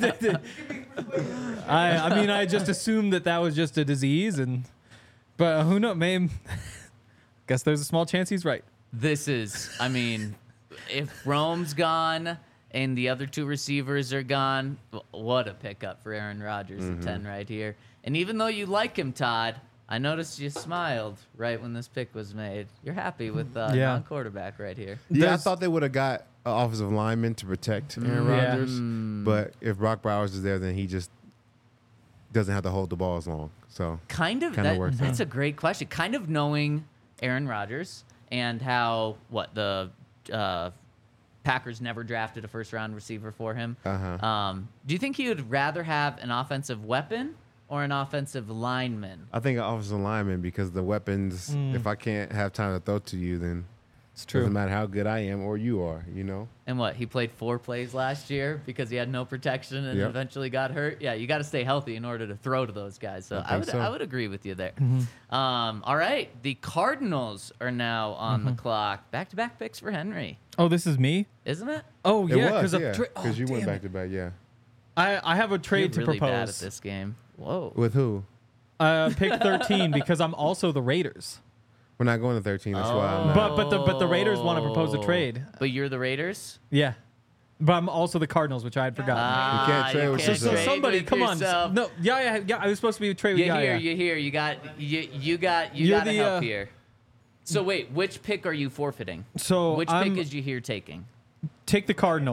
Speaker 2: I, I mean, I just assumed that that was just a disease, and but who knows? Maybe. Guess there's a small chance he's right.
Speaker 1: This is, I mean, if Rome's gone and the other two receivers are gone, w- what a pickup for Aaron Rodgers
Speaker 2: Mm-hmm.
Speaker 1: at ten right here. And even though you like him, Todd, I noticed you smiled right when this pick was made. You're happy with uh,
Speaker 2: Yeah.
Speaker 1: non-quarterback right here.
Speaker 3: Yeah, I
Speaker 2: There's-
Speaker 3: thought they would have got an offensive lineman to protect Aaron
Speaker 2: Yeah.
Speaker 3: Rodgers,
Speaker 1: Mm.
Speaker 3: but if Brock Bowers is there, then he just doesn't have to hold the ball as long. So
Speaker 1: Kind of.
Speaker 3: Kinda
Speaker 1: That,
Speaker 3: works
Speaker 1: that's a great question. Kind of knowing Aaron Rodgers and how what the uh, Packers never drafted a first-round receiver for him.
Speaker 3: Uh-huh.
Speaker 1: Um, do you think he would rather have an offensive weapon or an offensive lineman?
Speaker 3: I think an offensive lineman because the weapons. If I can't have time to throw to you, then
Speaker 2: It's
Speaker 3: it
Speaker 2: true.
Speaker 3: doesn't matter how good I am or you are. You know.
Speaker 1: And what, he played four plays last year because he had no protection and
Speaker 3: Yep.
Speaker 1: eventually got hurt? Yeah, you got to stay healthy in order to throw to those guys. So
Speaker 3: I
Speaker 1: I,
Speaker 3: think
Speaker 1: would
Speaker 3: so.
Speaker 1: I would agree with you there. Um, all right, the Cardinals are now on the clock. Back-to-back picks for Henry,
Speaker 2: Oh, this is me.
Speaker 1: isn't it?
Speaker 2: Oh
Speaker 3: It
Speaker 2: yeah,
Speaker 3: was,
Speaker 2: because
Speaker 3: yeah,
Speaker 2: of tra- oh,
Speaker 3: you went
Speaker 2: damn
Speaker 3: back
Speaker 2: it.
Speaker 3: to back. Yeah.
Speaker 2: I I have a trade
Speaker 1: You're
Speaker 2: to
Speaker 1: really bad at
Speaker 2: propose.
Speaker 1: this game. Whoa.
Speaker 3: With who?
Speaker 2: Uh, pick thirteen because I'm also the Raiders.
Speaker 3: We're not going to thirteen. That's why I'm not.
Speaker 2: But but the but the Raiders want to propose a
Speaker 1: Oh.
Speaker 2: trade.
Speaker 1: But you're the Raiders?
Speaker 2: Yeah, but I'm also the Cardinals, which I had forgotten.
Speaker 1: Ah,
Speaker 3: can't trade with
Speaker 2: so,
Speaker 3: yourself.
Speaker 2: so
Speaker 1: trade
Speaker 2: somebody,
Speaker 1: with
Speaker 2: come
Speaker 1: yourself.
Speaker 2: on. No, yeah, yeah, yeah. I was supposed to be a trade with
Speaker 1: You
Speaker 2: yeah,
Speaker 1: hear,
Speaker 2: yeah.
Speaker 1: you hear, you got, you, you got, you
Speaker 2: You're
Speaker 1: got to
Speaker 2: the,
Speaker 1: help
Speaker 2: uh,
Speaker 1: here. So wait, which pick are you forfeiting?
Speaker 2: So
Speaker 1: Which
Speaker 2: I'm,
Speaker 1: pick is you here taking?
Speaker 2: take the Cardinals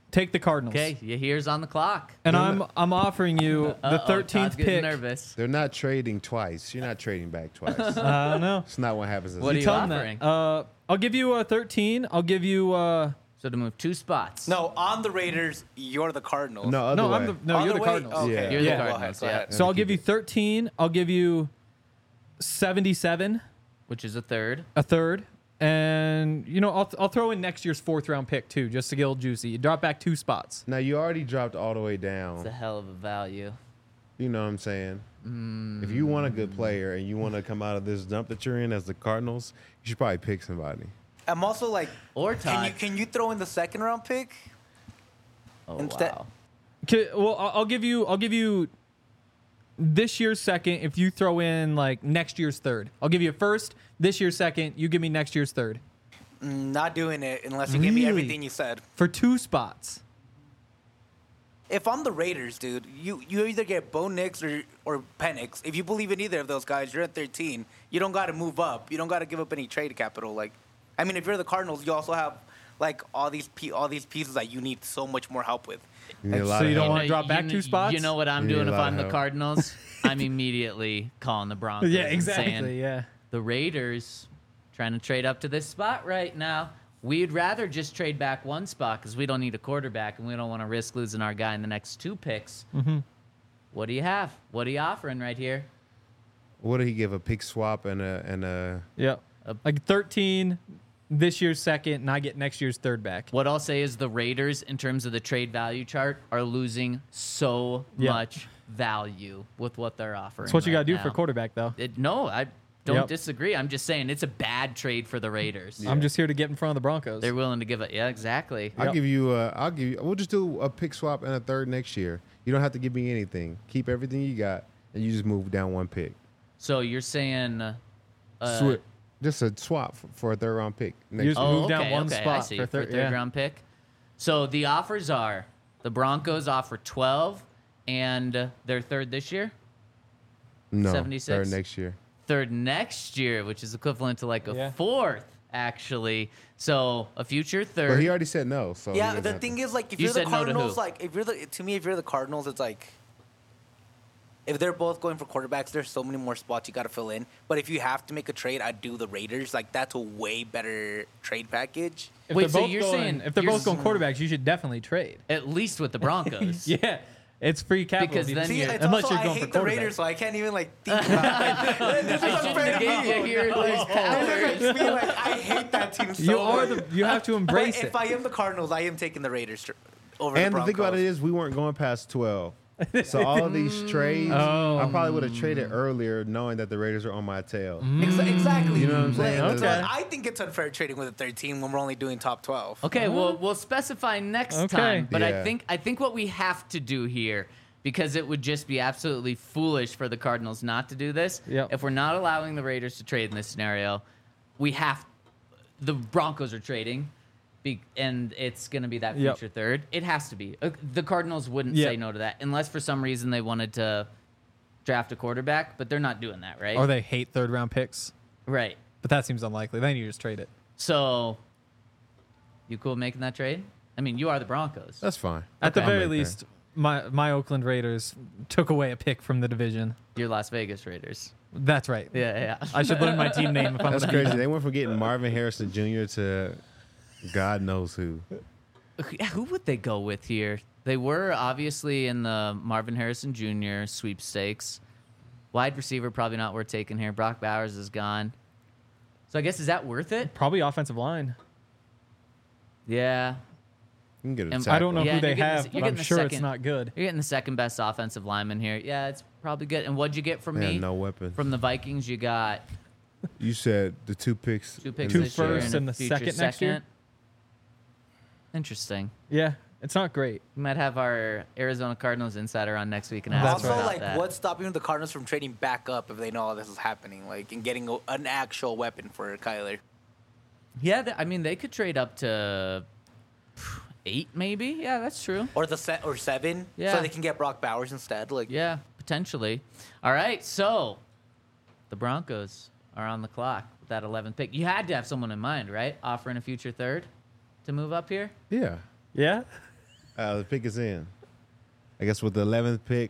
Speaker 2: Take the Cardinals.
Speaker 1: Okay, your here's on the clock.
Speaker 2: And I'm I'm offering you the
Speaker 1: Uh-oh,
Speaker 2: thirteenth
Speaker 1: Todd's getting
Speaker 2: pick.
Speaker 1: nervous.
Speaker 3: They're not trading twice. You're not trading back twice.
Speaker 2: I don't know.
Speaker 3: It's not what happens. This
Speaker 1: What are
Speaker 3: season.
Speaker 1: you
Speaker 2: Tell 'em
Speaker 1: offering?
Speaker 2: that. Uh, I'll give you a thirteen. I'll give you uh
Speaker 1: So to move two spots.
Speaker 5: No, on the Raiders, you're the Cardinals.
Speaker 3: No, other
Speaker 2: no,
Speaker 3: way.
Speaker 2: I'm the no,
Speaker 5: Other
Speaker 2: you're the
Speaker 5: way?
Speaker 2: Cardinals.
Speaker 5: Okay.
Speaker 3: Yeah.
Speaker 1: You're
Speaker 2: Yeah.
Speaker 1: the
Speaker 5: Go ahead,
Speaker 1: Cardinals,
Speaker 5: go
Speaker 1: yeah.
Speaker 5: ahead.
Speaker 2: So I'll
Speaker 3: keep
Speaker 2: give you
Speaker 3: it.
Speaker 2: thirteen. I'll give you seventy-seven,
Speaker 1: Which is a third.
Speaker 2: a third, and you know I'll I'll throw in next year's fourth round pick too, just to get a little juicy. You drop back two spots.
Speaker 3: Now you already dropped all the way
Speaker 1: It's a
Speaker 3: down.
Speaker 1: hell of a value.
Speaker 3: You know what I'm saying?
Speaker 1: Mm.
Speaker 3: If you want a good player and you want to come out of this dump that you're in as the Cardinals, you should probably pick somebody.
Speaker 5: I'm also like,
Speaker 1: Or
Speaker 5: can you
Speaker 1: Todd.
Speaker 5: can you throw in the second round pick?
Speaker 1: Oh,
Speaker 5: instead-
Speaker 1: wow.
Speaker 2: Okay, well I'll I'll give you I'll give you this year's second if you throw in like next year's third. I'll give you a first, this year's second. You give me next year's third
Speaker 5: Mm, Not doing it unless you give me
Speaker 2: Really?
Speaker 5: everything you said.
Speaker 2: for two spots.
Speaker 5: If I'm the Raiders, dude, you, you either get Bo Nix or or Penix. If you believe in either of those guys, you're at thirteen. You don't got to move up. You don't got to give up any trade capital. Like, I mean, if you're the Cardinals, you also have like all these pe- all these pieces that you need so much more help with.
Speaker 3: You need a lot
Speaker 2: So
Speaker 3: of
Speaker 2: you don't
Speaker 3: help.
Speaker 2: wanna
Speaker 1: know-
Speaker 2: drop back
Speaker 1: you
Speaker 2: two
Speaker 1: kn-
Speaker 2: spots?
Speaker 1: You know what I'm
Speaker 3: You need
Speaker 1: doing
Speaker 3: a
Speaker 1: if
Speaker 3: lot
Speaker 1: I'm
Speaker 3: of
Speaker 1: the
Speaker 3: help.
Speaker 1: Cardinals? I'm immediately calling the Broncos.
Speaker 2: Yeah,
Speaker 1: and
Speaker 2: exactly.
Speaker 1: saying,
Speaker 2: Yeah.
Speaker 1: the Raiders trying to trade up to this spot right now. We'd rather just trade back one spot because we don't need a quarterback and we don't want to risk losing our guy in the next two picks.
Speaker 2: Mm-hmm.
Speaker 1: What do you have? What are you offering right here?
Speaker 3: What did he give? A pick swap and a and a.
Speaker 2: Yeah.
Speaker 1: A-
Speaker 2: Like thirteen this year's second, and I get next year's third back.
Speaker 1: What I'll say is the Raiders, in terms of the trade value chart, are losing so
Speaker 2: Yeah.
Speaker 1: much value with what they're offering.
Speaker 2: That's what you got
Speaker 1: right
Speaker 2: to do
Speaker 1: now.
Speaker 2: for quarterback, though.
Speaker 1: It, no, I don't
Speaker 2: Yep.
Speaker 1: disagree. I'm just saying it's a bad trade for the Raiders.
Speaker 2: I'm just here to get in front of the Broncos.
Speaker 1: They're willing to give it. Yeah, exactly.
Speaker 3: I'll
Speaker 2: Yep.
Speaker 3: give you. A, I'll give you. We'll just do a pick swap and a third next year. You don't have to give me anything. Keep everything you got, and you just move down one pick.
Speaker 1: So you're saying, uh,
Speaker 3: Swi- Just a swap for, for a third round pick. Next
Speaker 2: You just
Speaker 3: year.
Speaker 1: oh,
Speaker 2: move down
Speaker 1: okay,
Speaker 2: one
Speaker 1: okay, I
Speaker 2: spot
Speaker 1: see,
Speaker 2: for
Speaker 1: for
Speaker 2: third-
Speaker 1: third
Speaker 2: yeah.
Speaker 1: round pick. So the offers are the Broncos offer twelve, and uh, their third this year,
Speaker 3: no,
Speaker 1: seventy-six?
Speaker 3: third next year.
Speaker 1: third next year, which is equivalent to like a
Speaker 2: Yeah.
Speaker 1: fourth, actually. So a future
Speaker 3: But
Speaker 1: third.
Speaker 3: he already said no. So he
Speaker 5: yeah,
Speaker 3: doesn't
Speaker 5: the
Speaker 3: have
Speaker 5: thing
Speaker 3: to.
Speaker 5: is, like, if
Speaker 1: You
Speaker 5: you're the
Speaker 1: said no to who?
Speaker 5: Cardinals, like, if you're the to me, if you're the Cardinals, it's like if they're both going for quarterbacks, there's so many more spots you got to fill in. But if you have to make a trade, I'd do the Raiders. Like, that's a way better trade package.
Speaker 2: If
Speaker 1: Wait,
Speaker 2: they're
Speaker 1: so
Speaker 2: both
Speaker 1: you're
Speaker 2: going,
Speaker 1: saying-
Speaker 2: if they're
Speaker 1: you're
Speaker 2: both going
Speaker 1: s-
Speaker 2: quarterbacks, you should definitely trade.
Speaker 1: at least with the Broncos.
Speaker 2: Yeah, it's free capital.
Speaker 1: Because
Speaker 2: if you-
Speaker 1: then
Speaker 5: See,
Speaker 1: you're-
Speaker 5: it's
Speaker 2: unless
Speaker 5: also,
Speaker 2: you're
Speaker 5: I
Speaker 2: going
Speaker 5: hate
Speaker 2: for
Speaker 5: the Raiders, so
Speaker 2: quarterback.
Speaker 5: I can't even like think about it. This
Speaker 1: I
Speaker 5: is
Speaker 1: shouldn't
Speaker 5: unfair
Speaker 1: have
Speaker 5: to
Speaker 1: gave you
Speaker 5: me.
Speaker 1: here these
Speaker 5: This
Speaker 1: powers.
Speaker 5: makes me like I hate that team so
Speaker 2: you are
Speaker 5: much.
Speaker 2: the. You have to
Speaker 5: But
Speaker 2: embrace
Speaker 5: if
Speaker 2: it.
Speaker 5: I am the Cardinals, I am taking the Raiders tr- over
Speaker 3: And
Speaker 5: the
Speaker 3: the thing
Speaker 5: Broncos.
Speaker 3: about it is, we weren't going past twelve. So all of these trades,
Speaker 2: Oh.
Speaker 3: I probably would have traded earlier, knowing that the Raiders are on my tail.
Speaker 5: Ex- exactly.
Speaker 3: You know what I'm saying?
Speaker 5: Like,
Speaker 2: Okay.
Speaker 5: I think it's unfair trading with a thirteen when we're only doing top twelve.
Speaker 1: Okay, well, we'll specify next
Speaker 2: Okay.
Speaker 1: time. But I
Speaker 3: Yeah.
Speaker 1: think I think what we have to do here, because it would just be absolutely foolish for the Cardinals not to do this.
Speaker 2: Yep.
Speaker 1: If we're not allowing the Raiders to trade in this scenario, we have the Broncos are trading, be, and it's going to be that
Speaker 2: Yep.
Speaker 1: future third. It has to be. Uh, The Cardinals wouldn't
Speaker 2: Yep.
Speaker 1: say no to that unless for some reason they wanted to draft a quarterback, but they're not doing that, right?
Speaker 2: Or they hate third round picks,
Speaker 1: Right.
Speaker 2: but that seems unlikely. Then you just trade it.
Speaker 1: So, you cool making that trade? I mean, you are the Broncos.
Speaker 3: That's fine.
Speaker 2: At the
Speaker 3: I'll
Speaker 2: very
Speaker 3: make that.
Speaker 2: least, my my Oakland Raiders took away a pick from the division.
Speaker 1: You're Las Vegas Raiders.
Speaker 2: That's right.
Speaker 1: Yeah, yeah.
Speaker 2: I should learn my team name if I'm
Speaker 3: That's
Speaker 2: gonna be-
Speaker 3: crazy. They went from getting Marvin Harrison Junior to God knows who.
Speaker 1: Yeah, who would they go with here? They were obviously in the Marvin Harrison Junior sweepstakes. Wide receiver probably not worth taking here. Brock Bowers is gone. So I guess is that worth it?
Speaker 2: Probably offensive line.
Speaker 1: Yeah.
Speaker 3: You can get a
Speaker 1: And-
Speaker 3: tackle.
Speaker 2: I don't know
Speaker 1: Yeah,
Speaker 2: who they
Speaker 1: you're getting
Speaker 2: have,
Speaker 1: the- you're
Speaker 2: but I'm
Speaker 1: getting the
Speaker 2: sure it's
Speaker 1: second-
Speaker 2: not good.
Speaker 1: You're getting the second best offensive lineman here. Yeah, it's probably good. And what'd you get from
Speaker 3: Man,
Speaker 1: me?
Speaker 3: no weapon.
Speaker 1: From the Vikings, you got
Speaker 3: You said the two picks.
Speaker 1: two picks
Speaker 2: Two
Speaker 1: this year
Speaker 2: firsts
Speaker 1: and,
Speaker 2: and
Speaker 1: a
Speaker 2: the
Speaker 1: future
Speaker 2: second next year?
Speaker 1: Interesting.
Speaker 2: Yeah, it's not great.
Speaker 1: We might have our Arizona Cardinals insider on next week and
Speaker 2: That's
Speaker 1: ask
Speaker 5: Also,
Speaker 1: about
Speaker 5: like,
Speaker 1: that.
Speaker 5: what's stopping the Cardinals from trading back up if they know all this is happening, like, and getting a, an actual weapon for Kyler?
Speaker 1: Yeah, th- I mean they could trade up to eight, maybe. Yeah, that's true.
Speaker 5: Or the set or seven,
Speaker 1: Yeah.
Speaker 5: so they can get Brock Bowers instead. Like,
Speaker 1: Yeah, potentially. All right, so the Broncos are on the clock with that eleventh pick. You had to have someone in mind, right? Offering a future third to move up here.
Speaker 3: Yeah.
Speaker 2: Yeah.
Speaker 3: Uh, the pick is in. I guess with the eleventh pick,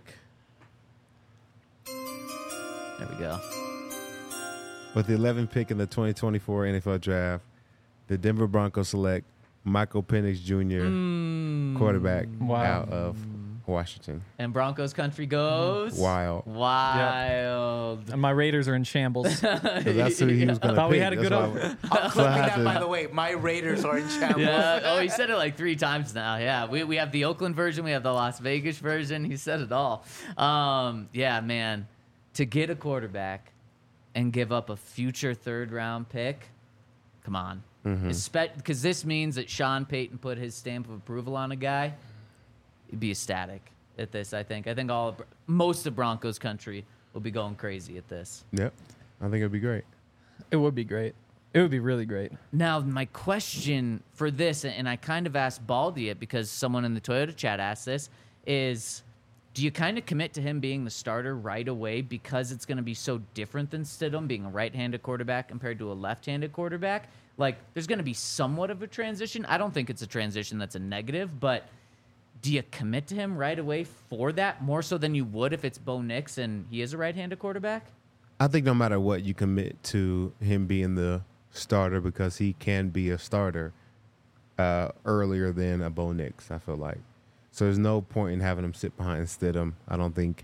Speaker 1: There we go.
Speaker 3: with the eleventh pick in the twenty twenty-four N F L Draft, the Denver Broncos select Michael Penix Junior,
Speaker 1: Mm.
Speaker 3: quarterback
Speaker 2: Wow.
Speaker 3: out of Washington.
Speaker 1: And Broncos country goes
Speaker 3: Wild.
Speaker 1: Wild.
Speaker 2: And my Raiders are in shambles.
Speaker 3: So that's who he was going to
Speaker 2: Thought
Speaker 3: pick.
Speaker 2: we had a good
Speaker 3: That's
Speaker 2: op-
Speaker 3: why-
Speaker 5: I'm
Speaker 3: So I
Speaker 5: flipping
Speaker 3: had
Speaker 5: that,
Speaker 3: to-
Speaker 5: by the way. My Raiders are in shambles.
Speaker 1: Yeah. Oh, he said it like three times now. Yeah. We, we have the Oakland version. We have the Las Vegas version. He said it all. Um, yeah, man. To get a quarterback and give up a future third round pick, come on. Because this means that Sean Payton put his stamp of approval on a guy. He'd be ecstatic at this, I think. I think all of, most of Broncos country will be going crazy at this.
Speaker 3: Yep. I think it'd be great.
Speaker 2: It would be great. It would be really great.
Speaker 1: Now, my question for this, and I kind of asked Baldy it because someone in the Toyota chat asked this, is do you kind of commit to him being the starter right away because it's going to be so different than Stidham being a right-handed quarterback compared to a left-handed quarterback? Like, there's going to be somewhat of a transition. I don't think it's a transition that's a negative, but do you commit to him right away for that more so than you would if it's Bo Nix and he is a right-handed quarterback?
Speaker 3: I think no matter what, you commit to him being the starter because he can be a starter uh, earlier than a Bo Nix, I feel like. So there's no point in having him sit behind Stidham. I don't think.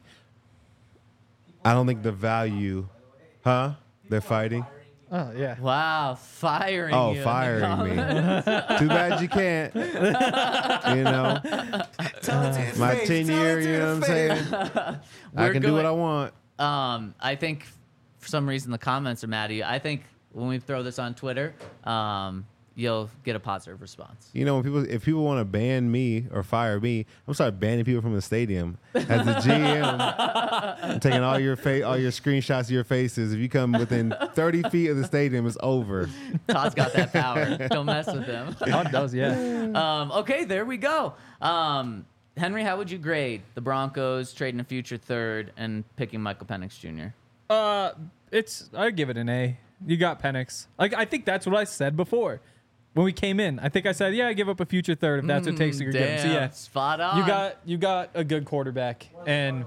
Speaker 3: I don't think the value, huh? They're fighting.
Speaker 2: Oh, yeah.
Speaker 1: Wow, firing
Speaker 3: Oh,
Speaker 1: you in the
Speaker 3: firing me.
Speaker 1: comments.
Speaker 3: Too bad you can't. You know,
Speaker 5: Tell it to his
Speaker 3: my
Speaker 5: face.
Speaker 3: ten
Speaker 5: Tell
Speaker 3: year.
Speaker 5: it to
Speaker 3: You know
Speaker 5: his
Speaker 3: what I'm
Speaker 5: face.
Speaker 3: saying? I
Speaker 1: We're
Speaker 3: can do
Speaker 1: going-
Speaker 3: what I want.
Speaker 1: Um, I think for some reason the comments are mad at you. I think when we throw this on Twitter, um, you'll get a positive response.
Speaker 3: You know, when people, if people want to ban me or fire me, I'm start banning people from the stadium. As the G M, I'm taking all your fa- all your screenshots of your faces. If you come within thirty feet of the stadium, it's over.
Speaker 1: Todd's got that power. Don't mess with him.
Speaker 2: Todd does, yeah.
Speaker 1: Um, okay, there we go. Um, Henry, how would you grade the Broncos trading a future third and picking Michael Penix Junior?
Speaker 2: Uh, it's I'd give it an A. You got Penix. Like I think that's what I said before when we came in. I think I said, yeah, I give up a future third if that's what it takes to
Speaker 1: Mm,
Speaker 2: get him. So
Speaker 1: damn,
Speaker 2: yeah,
Speaker 1: spot on.
Speaker 2: you got you got a good quarterback, and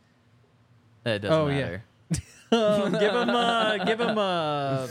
Speaker 1: It doesn't
Speaker 2: Oh, yeah.
Speaker 1: matter.
Speaker 2: uh, give him a give him a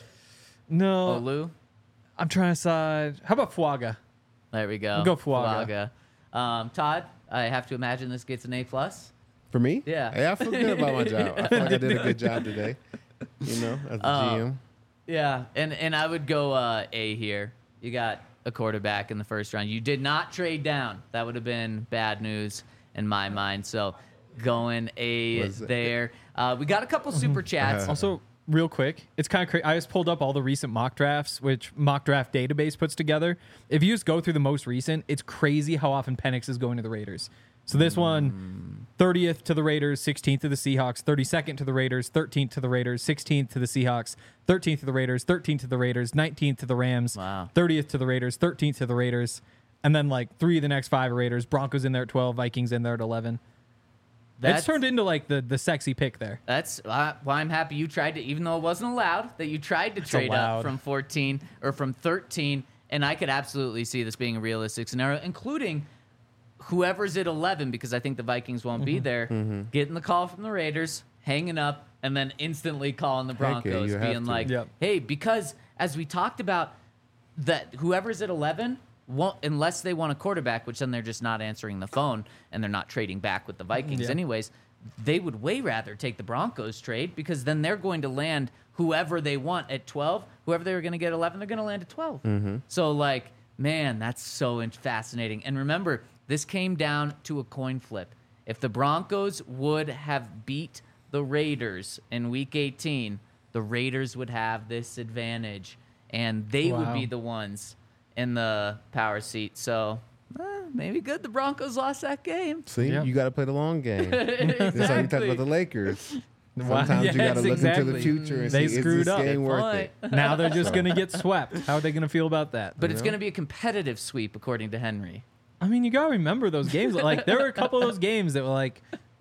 Speaker 2: no.
Speaker 1: Olu?
Speaker 2: I'm trying to decide. How about Fuaga?
Speaker 1: There we go.
Speaker 2: We'll go Fuaga.
Speaker 1: Fuaga. Um, Todd, I have to imagine this gets an A plus.
Speaker 3: For me,
Speaker 1: Yeah.
Speaker 3: yeah, I feel good about my job. I feel like I did a good job today. You know, as the
Speaker 1: Uh,
Speaker 3: G M.
Speaker 1: Yeah, and and I would go uh, A here. You got a quarterback in the first round. You did not trade down. That would have been bad news in my mind. So going A
Speaker 3: Was it?
Speaker 1: there. Uh, we got a couple super chats.
Speaker 2: Also, real quick, it's kind of crazy. I just pulled up all the recent mock drafts, which Mock Draft Database puts together. If you just go through the most recent, it's crazy how often Penix is going to the Raiders. So this one, thirtieth to the Raiders, sixteenth to the Seahawks, thirty-second to the Raiders, thirteenth to the Raiders, sixteenth to the Seahawks, thirteenth to the Raiders, thirteenth to the Raiders, nineteenth to the Rams,
Speaker 1: Wow.
Speaker 2: thirtieth to the Raiders, thirteenth to the Raiders, and then like three of the next five are Raiders. Broncos in there at twelve, Vikings in there at eleven.
Speaker 1: That's
Speaker 2: It's turned into like the the sexy pick there.
Speaker 1: That's uh, why I'm happy you tried to, even though it wasn't allowed, that you tried to trade up
Speaker 2: allowed.
Speaker 1: from fourteen or from thirteen. And I could absolutely see this being a realistic scenario, including whoever's at eleven, because I think the Vikings won't be there, getting the call from the Raiders, hanging up, and then instantly calling the
Speaker 3: Heck yeah,
Speaker 1: Broncos,
Speaker 3: you have
Speaker 1: being
Speaker 3: to.
Speaker 1: like,
Speaker 2: Yep.
Speaker 1: hey, because as we talked about, that whoever's at eleven, won't, unless they want a quarterback, which then they're just not answering the phone and they're not trading back with the Vikings
Speaker 2: Yeah.
Speaker 1: anyways, they would way rather take the Broncos trade because then they're going to land whoever they want at twelve. Whoever they were going to get eleven, they're going to land at twelve. So, like, man, that's so in- fascinating. And remember, this came down to a coin flip. If the Broncos would have beat the Raiders in Week eighteen, the Raiders would have this advantage, and they would
Speaker 2: Wow.
Speaker 1: be the ones in the power seat. So, eh, maybe good the Broncos lost that game.
Speaker 3: See,
Speaker 2: Yeah.
Speaker 3: you got to play the long game. That's how you talk
Speaker 1: Exactly.
Speaker 3: about the Lakers.
Speaker 2: Wow.
Speaker 3: Sometimes you got
Speaker 2: Yes,
Speaker 3: to look
Speaker 2: exactly.
Speaker 3: into the future and
Speaker 2: They
Speaker 3: see
Speaker 2: screwed
Speaker 3: is this
Speaker 2: up.
Speaker 3: game
Speaker 1: Good
Speaker 3: worth
Speaker 1: point.
Speaker 3: it.
Speaker 2: Now they're just going to get swept. How are they going to feel about that?
Speaker 1: But it's
Speaker 3: know?
Speaker 1: going to be a competitive sweep, according to Henry.
Speaker 2: I mean, you got to remember those games. Like, there were a couple of those games that were like,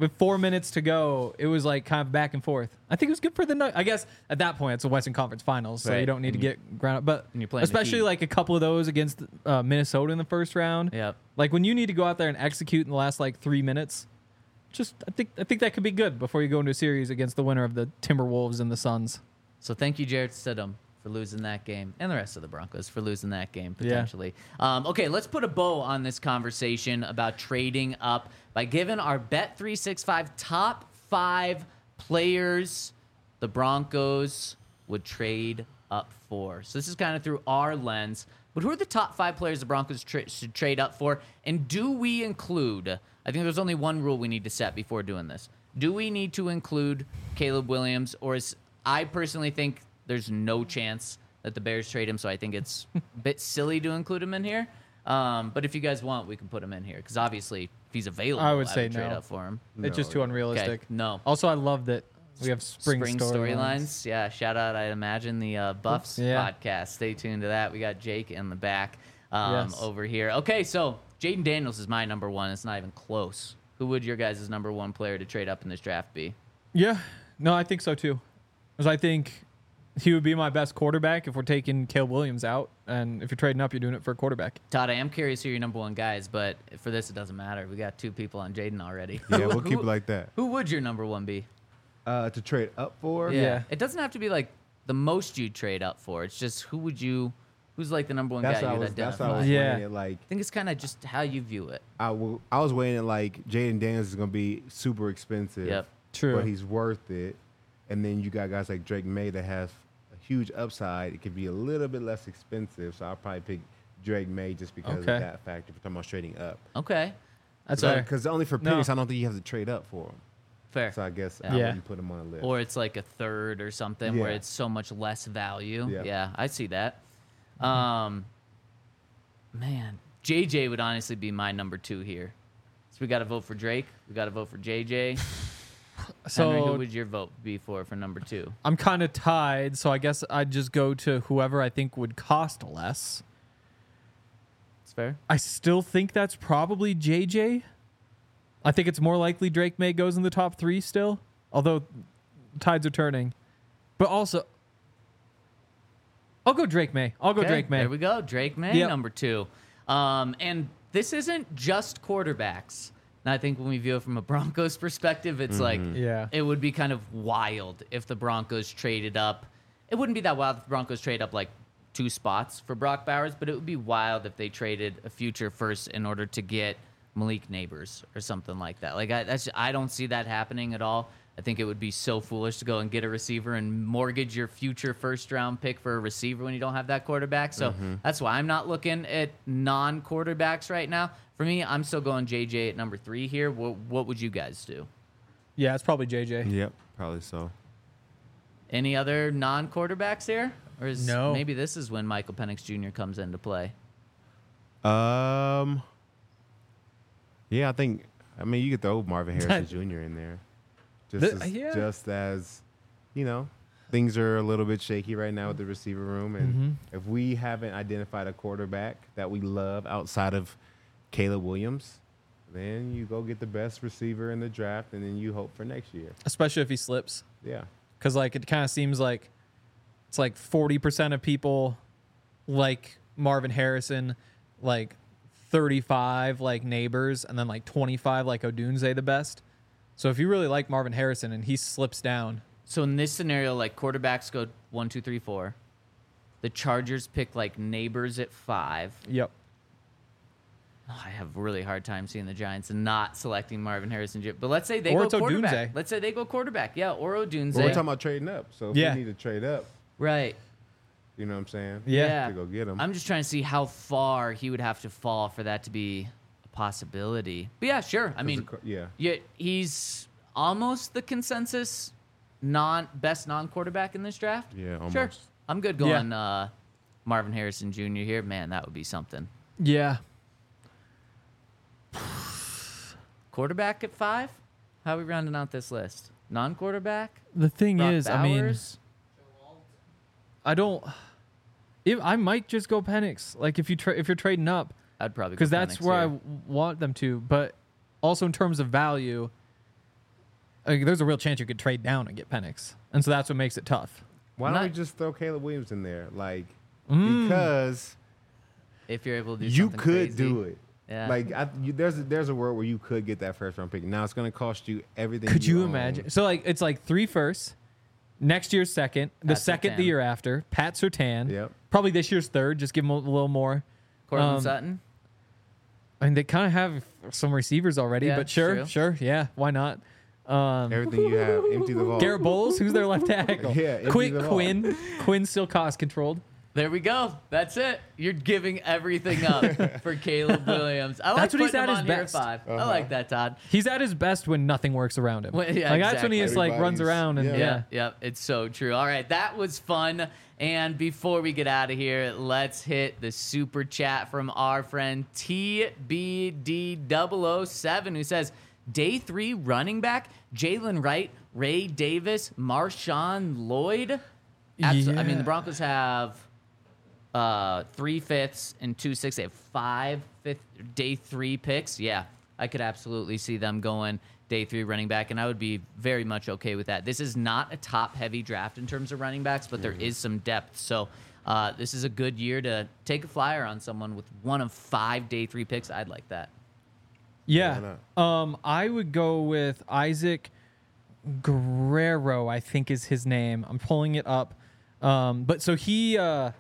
Speaker 2: with four minutes to go, it was like kind of back and forth. I think it was good for the Nuggets. I guess at that point it's a Western Conference Finals, so
Speaker 1: Right.
Speaker 2: you don't need to get ground up. But
Speaker 1: And you're playing the
Speaker 2: especially
Speaker 1: Heat.
Speaker 2: like a couple of those against uh, Minnesota in the first round.
Speaker 1: Yep.
Speaker 2: Like when you need to go out there and execute in the last like three minutes, just I think I think that could be good before you go into a series against the winner of the Timberwolves and the Suns.
Speaker 1: So thank you, Jared Stidham, for losing that game, and the rest of the Broncos for losing that game
Speaker 2: Yeah.
Speaker 1: potentially. Um, okay, let's put a bow on this conversation about trading up by giving our Bet three sixty-five top five players the Broncos would trade up for. So this is kind of through our lens. But who are the top five players the Broncos tra- should trade up for? And do we include, I think there's only one rule we need to set before doing this. Do we need to include Caleb Williams, or is I personally think there's no chance that the Bears trade him, so I think it's a bit silly to include him in here. Um, but if you guys want, we can put him in here, because obviously, if he's available,
Speaker 2: I would say
Speaker 1: trade
Speaker 2: no.
Speaker 1: up for him.
Speaker 2: It's just too unrealistic.
Speaker 1: Okay, no.
Speaker 2: Also, I love that we have spring,
Speaker 1: Spring
Speaker 2: storylines.
Speaker 1: storylines. Yeah, shout out, I imagine, the uh, Buffs
Speaker 2: Yeah.
Speaker 1: podcast. Stay tuned to that. We got Jake in the back um,
Speaker 2: Yes.
Speaker 1: over here. Okay, so Jaden Daniels is my number one. It's not even close. Who would your guys' number one player to trade up in this draft be?
Speaker 2: Yeah, no, I think so too. Because I think he would be my best quarterback if we're taking Caleb Williams out, and if you're trading up, you're doing it for a quarterback.
Speaker 1: Todd, I am curious who your number one guy is, but for this, it doesn't matter. We got two people on Jaden already.
Speaker 3: Yeah,
Speaker 1: Who-
Speaker 3: we'll keep
Speaker 1: who-
Speaker 3: it like that.
Speaker 1: Who would your number one be?
Speaker 3: Uh, to trade up for?
Speaker 2: Yeah.
Speaker 1: It doesn't have to be like the most you trade up for. It's just who would you, who's like the number one
Speaker 3: That's
Speaker 1: guy
Speaker 3: what I
Speaker 1: you would
Speaker 3: was. That's what I
Speaker 1: identify.
Speaker 3: was
Speaker 2: Yeah.
Speaker 3: weighing it like.
Speaker 1: I think it's kind of just how you view it.
Speaker 3: I will, I was weighing it like Jaden Daniels is gonna be super expensive.
Speaker 1: Yep.
Speaker 2: True.
Speaker 3: But he's worth it. And then you got guys like Drake May that have a huge upside. It could be a little bit less expensive, so I'll probably pick Drake May just because
Speaker 2: Okay.
Speaker 3: of that factor. If we're talking about trading up,
Speaker 1: Okay.
Speaker 2: That's
Speaker 1: So-
Speaker 2: fair.
Speaker 3: because only for
Speaker 2: No.
Speaker 3: picks, I don't think you have to trade up for them.
Speaker 1: Fair.
Speaker 3: So I guess
Speaker 1: Yeah.
Speaker 3: I
Speaker 2: Yeah.
Speaker 3: wouldn't put him on a list.
Speaker 1: Or it's like a third or something where
Speaker 3: Yeah.
Speaker 1: it's so much less value.
Speaker 3: Yeah.
Speaker 1: Yeah, I see that. Um, man, J J would honestly be my number two here. So we got to vote for Drake. We got to vote for J J. Henry, who
Speaker 2: So
Speaker 1: would your vote be for for number two?
Speaker 2: I'm kind of tied, so I guess I'd just go to whoever I think would cost less.
Speaker 1: It's fair.
Speaker 2: I still think that's probably J J. I think it's more likely Drake May goes in the top three still, although tides are turning. But also, I'll go Drake May. I'll go
Speaker 1: Okay,
Speaker 2: Drake May.
Speaker 1: There we go. Drake May,
Speaker 2: Yep.
Speaker 1: number two. Um, and this isn't just quarterbacks. And I think when we view it from a Broncos perspective, it's like
Speaker 2: Yeah.
Speaker 1: it would be kind of wild if the Broncos traded up. It wouldn't be that wild if the Broncos trade up like two spots for Brock Bowers, but it would be wild if they traded a future first in order to get Malik Neighbors or something like that. Like I, that's I don't see that happening at all. I think it would be so foolish to go and get a receiver and mortgage your future first round pick for a receiver when you don't have that quarterback. So that's why I'm not looking at non quarterbacks right now. For me, I'm still going J J at number three here. What, what would you guys do?
Speaker 2: Yeah, it's probably J J.
Speaker 3: Yep, probably so.
Speaker 1: Any other non quarterbacks here? Or is
Speaker 2: No.
Speaker 1: maybe this is when Michael Penix Junior comes into play?
Speaker 3: Um. Yeah, I think. I mean, you could throw Marvin Harrison Junior in there, just
Speaker 2: The-
Speaker 3: as,
Speaker 2: yeah.
Speaker 3: just as, you know, things are a little bit shaky right now with the receiver room, and
Speaker 2: Mm-hmm.
Speaker 3: if we haven't identified a quarterback that we love outside of Caleb Williams, then you go get the best receiver in the draft, and then you hope for next year.
Speaker 2: Especially if he slips.
Speaker 3: Yeah.
Speaker 2: Because like it kind of seems like it's like forty percent of people like Marvin Harrison, like thirty-five like Neighbors, and then like twenty-five like Odunze the best. So if you really like Marvin Harrison and he slips down,
Speaker 1: So in this scenario, like quarterbacks go one, two, three, four. The Chargers pick like Neighbors at five.
Speaker 2: yep.
Speaker 1: Oh, I have a really hard time seeing the Giants and not selecting Marvin Harrison. Jr. But let's say they
Speaker 2: Or
Speaker 1: go
Speaker 2: it's
Speaker 1: quarterback.
Speaker 2: Odunze.
Speaker 1: Let's say they go quarterback. Yeah, or Odunze.
Speaker 3: But we're talking about trading up, so if
Speaker 2: Yeah.
Speaker 3: we need to trade up,
Speaker 1: right.
Speaker 3: you know what I'm saying?
Speaker 2: Yeah.
Speaker 3: To go get him.
Speaker 1: I'm just trying to see how far he would have to fall for that to be a possibility. But yeah, sure. I mean,
Speaker 3: yeah.
Speaker 1: yeah, he's almost the consensus non best non quarterback in this draft.
Speaker 3: Yeah,
Speaker 1: Sure.
Speaker 3: almost.
Speaker 1: I'm good
Speaker 2: Yeah.
Speaker 1: going uh, Marvin Harrison Junior here. Man, that would be something.
Speaker 2: Yeah.
Speaker 1: Quarterback at five? How are we rounding out this list? Non quarterback?
Speaker 2: The thing is, I mean,
Speaker 1: Bowers?
Speaker 2: I don't. If I might just go Penix, like if you tra- if you're trading up,
Speaker 1: I'd probably go
Speaker 2: because that's
Speaker 1: Penix
Speaker 2: where I
Speaker 1: here.
Speaker 2: w- want them to. But also in terms of value, like, there's a real chance you could trade down and get Penix, and so that's what makes it tough.
Speaker 3: Why don't
Speaker 1: Not-
Speaker 3: we just throw Caleb Williams in there? Like,
Speaker 2: Mm.
Speaker 3: because
Speaker 1: If you're able to do
Speaker 3: you
Speaker 1: something
Speaker 3: could
Speaker 1: crazy.
Speaker 3: do it.
Speaker 1: Yeah.
Speaker 3: Like, I, you, there's a, there's a world where you could get that first round pick. Now it's going to cost you everything.
Speaker 2: Could you
Speaker 3: own.
Speaker 2: imagine? So like it's like three firsts, next year's second, the
Speaker 1: Pat
Speaker 2: second the
Speaker 1: Surtain.
Speaker 2: year after, Pat Surtain.
Speaker 3: Yep.
Speaker 2: Probably this year's third. Just give him a little more.
Speaker 1: Cortland
Speaker 2: Um,
Speaker 1: Sutton.
Speaker 2: I mean, they kind of have some receivers already,
Speaker 1: Yeah,
Speaker 2: but sure,
Speaker 1: true.
Speaker 2: sure, yeah, why not? Um,
Speaker 3: Everything you have, empty the vault.
Speaker 2: Garrett Bowles, who's their left tackle?
Speaker 3: Yeah, empty
Speaker 2: Quinn,
Speaker 3: the vault.
Speaker 2: Quinn, Quinn still cost controlled.
Speaker 1: There we go. That's it. You're giving everything up for Caleb Williams. I like
Speaker 2: That's when he's
Speaker 1: putting him
Speaker 2: at his
Speaker 1: on here at
Speaker 2: best.
Speaker 1: five. I
Speaker 3: Uh-huh.
Speaker 1: like that, Todd.
Speaker 2: He's at his best when nothing works around him.
Speaker 1: When- yeah,
Speaker 2: like that's when he
Speaker 1: exactly.
Speaker 2: just like runs
Speaker 3: Everybody's-
Speaker 2: around and
Speaker 3: yeah.
Speaker 2: yeah.
Speaker 1: Yeah, yeah, it's so true. All right, that was fun. And before we get out of here, let's hit the super chat from our friend T B D double oh seven, who says, day three running back, Jalen Wright, Ray Davis, Marshawn Lloyd. Absol- I mean, the
Speaker 2: Yeah.
Speaker 1: Broncos have uh, three fifths and two sixths. They have five fifth day three picks. Yeah, I could absolutely see them going day three running back, and I would be very much okay with that. This is not a top-heavy draft in terms of running backs, but there is some depth. So uh, this is a good year to take a flyer on someone with one of five day three picks. I'd like that.
Speaker 2: Yeah. Um, I would go with Isaac Guerrero, I think is his name. I'm pulling it up. Um, but so he uh,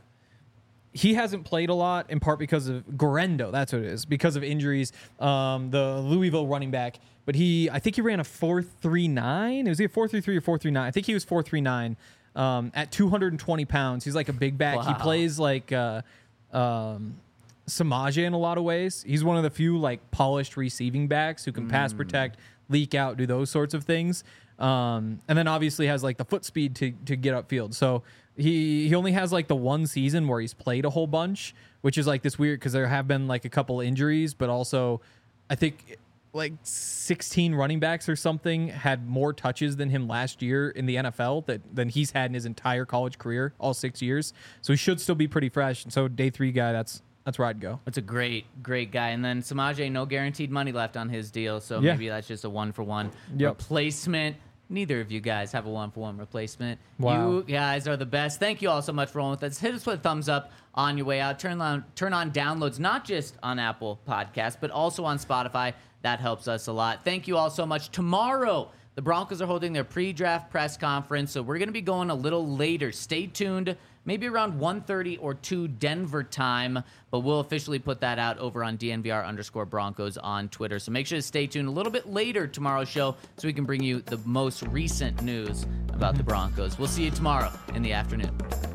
Speaker 2: he hasn't played a lot in part because of Guerrero. That's what it is, because of injuries. Um, the Louisville running back, but he I think he ran a four three nine. It was either four three three or four three nine. I think he was four three nine um, at two hundred twenty pounds. He's like a big back. He
Speaker 1: Wow.
Speaker 2: plays like uh, um, Samaje in a lot of ways. He's one of the few like polished receiving backs who can pass protect, leak out, do those sorts of things. Um, and then obviously has like the foot speed to to get upfield. So he he only has like the one season where he's played a whole bunch, which is like this weird because there have been like a couple injuries, but also I think like sixteen running backs or something had more touches than him last year in the N F L that than he's had in his entire college career, all six years. So he should still be pretty fresh. And so day three guy, that's that's where I'd go.
Speaker 1: That's a great, great guy. And then Samaje, no guaranteed money left on his deal, so
Speaker 2: Yeah.
Speaker 1: maybe that's just a one-for-one
Speaker 2: Yep.
Speaker 1: replacement. Neither of you guys have a one-for-one replacement.
Speaker 2: Wow.
Speaker 1: You guys are the best. Thank you all so much for rolling with us. Hit us with a thumbs up on your way out. Turn on, turn on downloads, not just on Apple Podcasts, but also on Spotify. That helps us a lot. Thank you all so much. Tomorrow, the Broncos are holding their pre-draft press conference, so we're going to be going a little later. Stay tuned. Maybe around one thirty or two Denver time, but we'll officially put that out over on D N V R underscore Broncos on Twitter. So make sure to stay tuned a little bit later tomorrow's show so we can bring you the most recent news about the Broncos. We'll see you tomorrow in the afternoon.